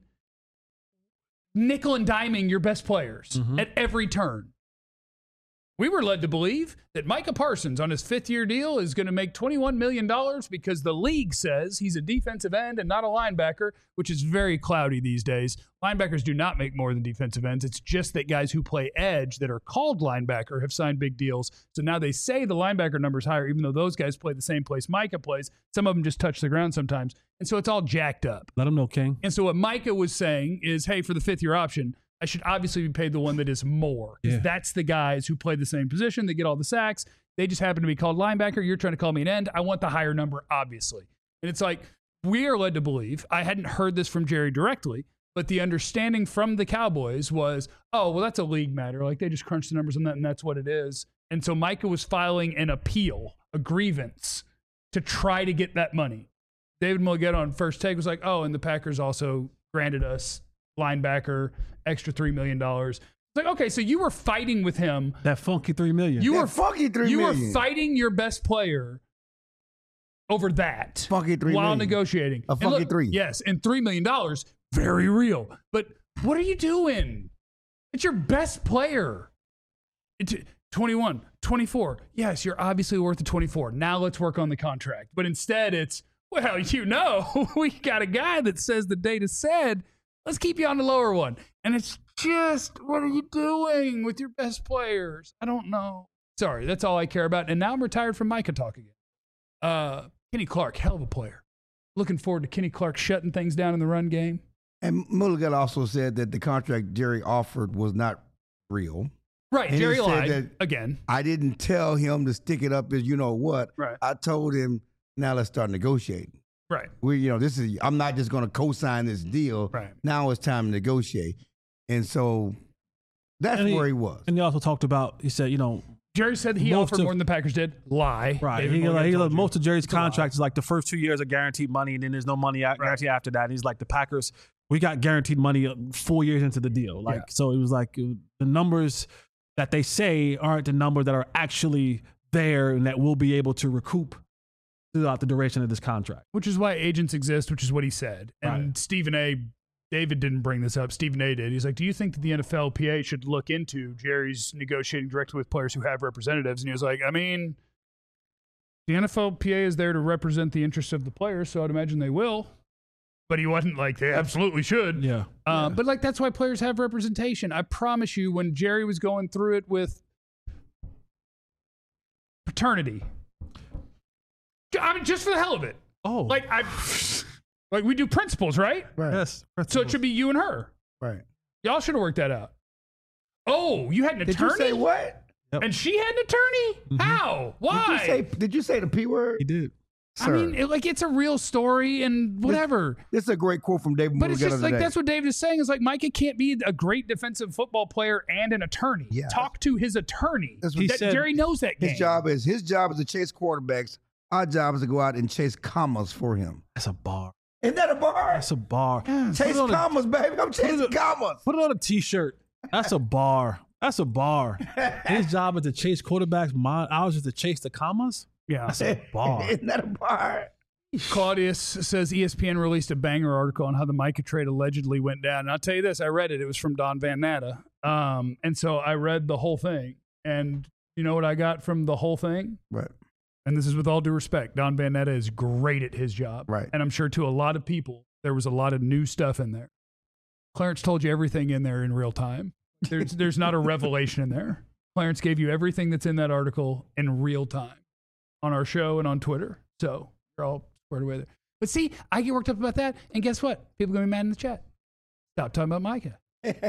Speaker 1: nickel and diming your best players
Speaker 2: Mhm.
Speaker 1: at every turn? We were led to believe that Micah Parsons on his fifth year deal is going to make twenty-one million dollars because the league says he's a defensive end and not a linebacker, which is very cloudy these days. Linebackers do not make more than defensive ends. It's just that guys who play edge that are called linebacker have signed big deals. So now they say the linebacker number is higher, even though those guys play the same place Micah plays. Some of them just touch the ground sometimes. And so it's all jacked up.
Speaker 2: Let him know, King.
Speaker 1: And so what Micah was saying is, hey, for the fifth year option, I should obviously be paid the one that is more. 'Cause
Speaker 2: Yeah.
Speaker 1: that's the guys who play the same position. They get all the sacks. They just happen to be called linebacker. You're trying to call me an end. I want the higher number, obviously. And it's like, we are led to believe, I hadn't heard this from Jerry directly, But the understanding from the Cowboys was, oh, well, that's a league matter. Like they just crunch the numbers on that, and that's what it is. And so Micah was filing an appeal, a grievance, to try to get that money. David Mulligetta on First Take was like, oh, and the Packers also granted us linebacker extra three million dollars. It's like, okay, so you were fighting with him.
Speaker 2: That funky three million.
Speaker 1: You
Speaker 4: That
Speaker 1: were
Speaker 4: funky three
Speaker 1: You
Speaker 4: million.
Speaker 1: were fighting your best player over that
Speaker 4: Funky three
Speaker 1: while
Speaker 4: million.
Speaker 1: negotiating.
Speaker 4: A
Speaker 1: And
Speaker 4: funky
Speaker 1: look,
Speaker 4: three.
Speaker 1: Yes, and three million dollars, very real. But what are you doing? It's your best player. It's twenty-one, twenty-four. Yes, you're obviously worth the twenty-four. Now let's work on the contract. But instead it's, well, you know, we got a guy that says the data said, let's keep you on the lower one. And it's just, what are you doing with your best players? I don't know. Sorry, that's all I care about. And now I'm retired from Micah talk again. Uh, Kenny Clark, hell of a player. Looking forward to Kenny Clark shutting things down in the run game.
Speaker 4: And Mulligan also said that the contract Jerry offered was not real.
Speaker 1: Right,
Speaker 4: And he
Speaker 1: Jerry
Speaker 4: said
Speaker 1: lied
Speaker 4: that-
Speaker 1: again.
Speaker 4: I didn't tell him to stick it up as you know what.
Speaker 1: Right.
Speaker 4: I told him, now let's start negotiating.
Speaker 1: Right.
Speaker 4: We, you know, this is, I'm not just going to co-sign this deal.
Speaker 1: Right.
Speaker 4: Now it's time to negotiate. And so that's
Speaker 2: And he-
Speaker 4: where he was.
Speaker 2: And he also talked about, he said, you know,
Speaker 1: Jerry said he
Speaker 2: Most
Speaker 1: offered
Speaker 2: of-
Speaker 1: more than the Packers did. Lie.
Speaker 2: right.
Speaker 1: David
Speaker 2: He,
Speaker 1: Morgan
Speaker 2: like, he,
Speaker 1: told
Speaker 2: like,
Speaker 1: you.
Speaker 2: most of Jerry's
Speaker 1: It's a lie.
Speaker 2: contract is like the first two years are guaranteed money, and then there's no money out, guaranteed after that. And he's like, the Packers, we got guaranteed money four years into the deal. Like,
Speaker 1: Yeah.
Speaker 2: so it was like uh, the numbers that they say aren't the number that are actually there and that we'll be able to recoup throughout the duration of this contract.
Speaker 1: Which is why agents exist, which is what he said. And
Speaker 2: Right.
Speaker 1: Stephen A. David didn't bring this up. Stephen A. did. He's like, do you think that the N F L P A should look into Jerry's negotiating directly with players who have representatives? And he was like, I mean, the N F L P A is there to represent the interests of the players, so I'd imagine they will. But he wasn't like, they absolutely should.
Speaker 2: Yeah.
Speaker 1: Uh, But like that's why players have representation. I promise you, when Jerry was going through it with paternity, I mean, just for the hell of it,
Speaker 2: Oh.
Speaker 1: like I, like we do principles, right?
Speaker 4: Right.
Speaker 2: yes.
Speaker 1: So it should be you and her.
Speaker 4: Right.
Speaker 1: Y'all should have worked that out. Oh, you had an
Speaker 4: Did
Speaker 1: attorney,
Speaker 4: you say what?
Speaker 1: and she had an attorney. How? Why?
Speaker 4: Did you say, did you say the P word?
Speaker 2: He did.
Speaker 1: I
Speaker 4: Sir,
Speaker 1: mean, it, like it's a real story and whatever.
Speaker 4: this is a great quote from David
Speaker 1: But it's
Speaker 4: Mulligan
Speaker 1: just like
Speaker 4: today.
Speaker 1: that's what David is saying is like Micah can't be a great defensive football player and an attorney.
Speaker 4: Yeah.
Speaker 1: Talk to his attorney.
Speaker 4: That's what
Speaker 2: He
Speaker 1: That-
Speaker 2: said
Speaker 1: Jerry knows that game.
Speaker 4: His job is his job is to chase quarterbacks. Our job is to go out and chase commas for him.
Speaker 2: That's a bar.
Speaker 4: Isn't that a bar?
Speaker 2: That's a bar.
Speaker 4: Chase
Speaker 2: Put it on a-
Speaker 4: commas, baby. I'm chasing
Speaker 2: it-
Speaker 4: commas.
Speaker 2: Put it on a t-shirt. That's a bar. That's a bar. His job is to chase quarterbacks. My ours is to chase the commas.
Speaker 1: Yeah.
Speaker 2: That's a bar.
Speaker 4: Isn't that a bar?
Speaker 1: Claudius says E S P N released a banger article on how the Micah trade allegedly went down. And I'll tell you this, I read it. It was from Don Van Natta. Um, and so I read the whole thing. And you know what I got from the whole thing?
Speaker 4: Right.
Speaker 1: And this is with all due respect. Don Van Natta is great at his job.
Speaker 4: Right.
Speaker 1: And I'm sure to a lot of people, there was a lot of new stuff in there. Clarence told you everything in there in real time. There's, there's not a revelation in there. Clarence gave you everything that's in that article in real time on our show and on Twitter. So you're all squared away there. But see, I get worked up about that. And guess what? People are going to be mad in the chat. Stop talking about Micah.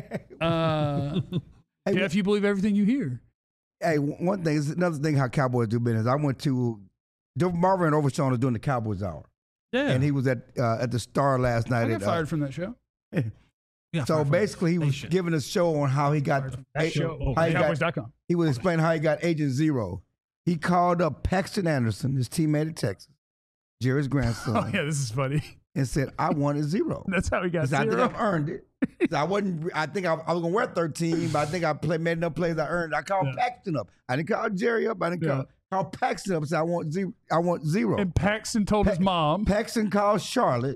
Speaker 1: Uh,
Speaker 4: Hey,
Speaker 1: Jeff, you believe everything you hear.
Speaker 4: Hey, one thing is another thing how Cowboys do business. I went to Marvin Overshawn was doing the Cowboys Hour,
Speaker 2: Yeah.
Speaker 4: and he was at uh, at the Star last night.
Speaker 1: I got
Speaker 4: at, uh,
Speaker 1: fired from that show.
Speaker 2: Yeah,
Speaker 4: so
Speaker 2: fired from
Speaker 4: basically, he was
Speaker 2: station.
Speaker 4: giving a show on how he got
Speaker 1: That show,
Speaker 2: oh,
Speaker 4: how he got,
Speaker 1: Cowboys dot com.
Speaker 4: he was explaining how he got Agent Zero. He called up Paxton Anderson, his teammate at Texas, Jerry's grandson,
Speaker 1: Oh, yeah, this is funny.
Speaker 4: and said, "I wanted zero."
Speaker 1: That's how he got
Speaker 4: He said, I think
Speaker 1: zero.
Speaker 4: I've earned it. He said, I wasn't. I think I, I was gonna wear thirteen, but I think I played made enough plays. I earned. I called
Speaker 1: Yeah.
Speaker 4: Paxton up. I didn't call Jerry up. I didn't
Speaker 1: Yeah.
Speaker 4: call, call Paxton up and said, I want zero. I want zero.
Speaker 1: And Paxton told his
Speaker 4: Pa-
Speaker 1: mom.
Speaker 4: Paxton called Charlotte.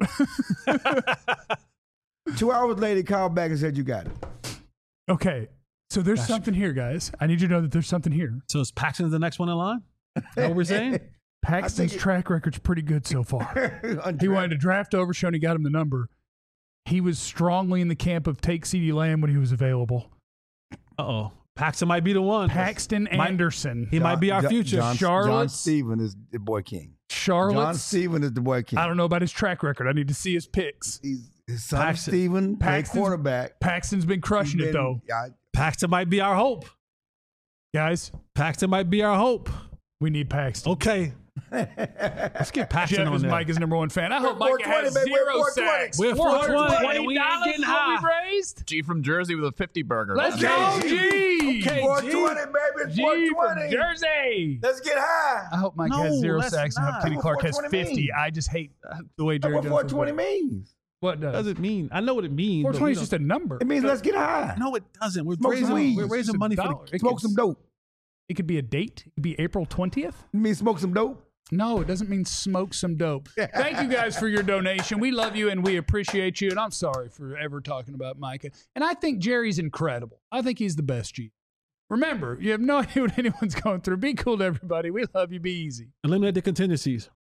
Speaker 4: Two hours later, he called back and said, "You got it."
Speaker 1: Okay, so there's something here, guys. I need you to know that there's something here.
Speaker 2: So is Paxton the next one in line? Is that what we're saying?
Speaker 1: Paxton's
Speaker 4: it-
Speaker 1: track record's pretty good so far. He wanted to draft Overshown. He got him the number. He was strongly in the camp of take CeeDee Lamb when he was available.
Speaker 2: Uh-oh. Paxton might be the one.
Speaker 1: Paxton
Speaker 2: Might-
Speaker 1: Anderson.
Speaker 2: He might be our
Speaker 4: John-
Speaker 2: future.
Speaker 4: John, John
Speaker 1: Charlotte's-
Speaker 4: Steven is the boy king. John
Speaker 1: Charlotte's.
Speaker 4: Steven is the boy king.
Speaker 1: I don't know about his track record. I need to see his picks.
Speaker 4: He's, his son
Speaker 2: Paxton-
Speaker 4: Steven, played
Speaker 1: Paxton's-
Speaker 4: quarterback.
Speaker 1: Paxton's been crushing
Speaker 4: He's
Speaker 1: it,
Speaker 4: been-
Speaker 1: though.
Speaker 4: I-
Speaker 2: Paxton might be our hope.
Speaker 1: Guys,
Speaker 2: Paxton might be our hope.
Speaker 1: we need Paxton.
Speaker 2: Okay. Let's get Paxton
Speaker 1: Jeff
Speaker 2: on
Speaker 1: is
Speaker 2: there.
Speaker 1: Mike's number one fan. I hope
Speaker 4: We're
Speaker 1: Micah
Speaker 4: four twenty,
Speaker 1: has
Speaker 4: baby. We're
Speaker 1: zero
Speaker 4: four twenty.
Speaker 1: sacks.
Speaker 2: We're four twenty, and we ain't
Speaker 1: dollars
Speaker 2: getting
Speaker 1: is what
Speaker 2: high.
Speaker 1: we raised.
Speaker 5: G from Jersey with a fifty burger.
Speaker 1: Let's
Speaker 4: Okay,
Speaker 1: go,
Speaker 4: G.
Speaker 1: G.
Speaker 2: Okay,
Speaker 4: four
Speaker 2: G.
Speaker 4: twenty, baby.
Speaker 1: G
Speaker 4: four
Speaker 1: from
Speaker 4: twenty.
Speaker 1: Jersey.
Speaker 4: Let's get high.
Speaker 1: I hope Mike
Speaker 2: No,
Speaker 1: has zero
Speaker 2: let's
Speaker 1: sacks and hope
Speaker 2: not.
Speaker 1: Kenny
Speaker 4: That's
Speaker 1: Clark
Speaker 4: what
Speaker 1: has
Speaker 4: four twenty
Speaker 1: fifty.
Speaker 4: means.
Speaker 1: I just hate uh, the way Jerry
Speaker 4: That's what
Speaker 1: Jones
Speaker 4: four twenty
Speaker 1: plays.
Speaker 4: means.
Speaker 1: What
Speaker 2: What
Speaker 1: does?
Speaker 2: does it mean? I know what it means.
Speaker 1: four
Speaker 2: but
Speaker 1: twenty
Speaker 2: we
Speaker 1: is just
Speaker 2: don't-
Speaker 1: a number.
Speaker 4: It means let's get high.
Speaker 2: No, it doesn't. We're
Speaker 4: Smoke some
Speaker 2: raising,
Speaker 4: weed.
Speaker 2: we're
Speaker 1: It's
Speaker 2: raising
Speaker 1: just a
Speaker 2: money for
Speaker 1: dollar.
Speaker 2: the
Speaker 1: It
Speaker 4: Smoke
Speaker 1: could-
Speaker 4: some dope.
Speaker 1: It could be a date. It could be April twentieth.
Speaker 4: You mean smoke some dope?
Speaker 1: No, it doesn't mean smoke some dope. Thank you guys for your donation. We love you and we appreciate you. And I'm sorry for ever talking about Micah. And I think Jerry's incredible. I think he's the best G. Remember, you have no idea what anyone's going through. Be cool to everybody. We love you. Be easy.
Speaker 2: Eliminate the contingencies.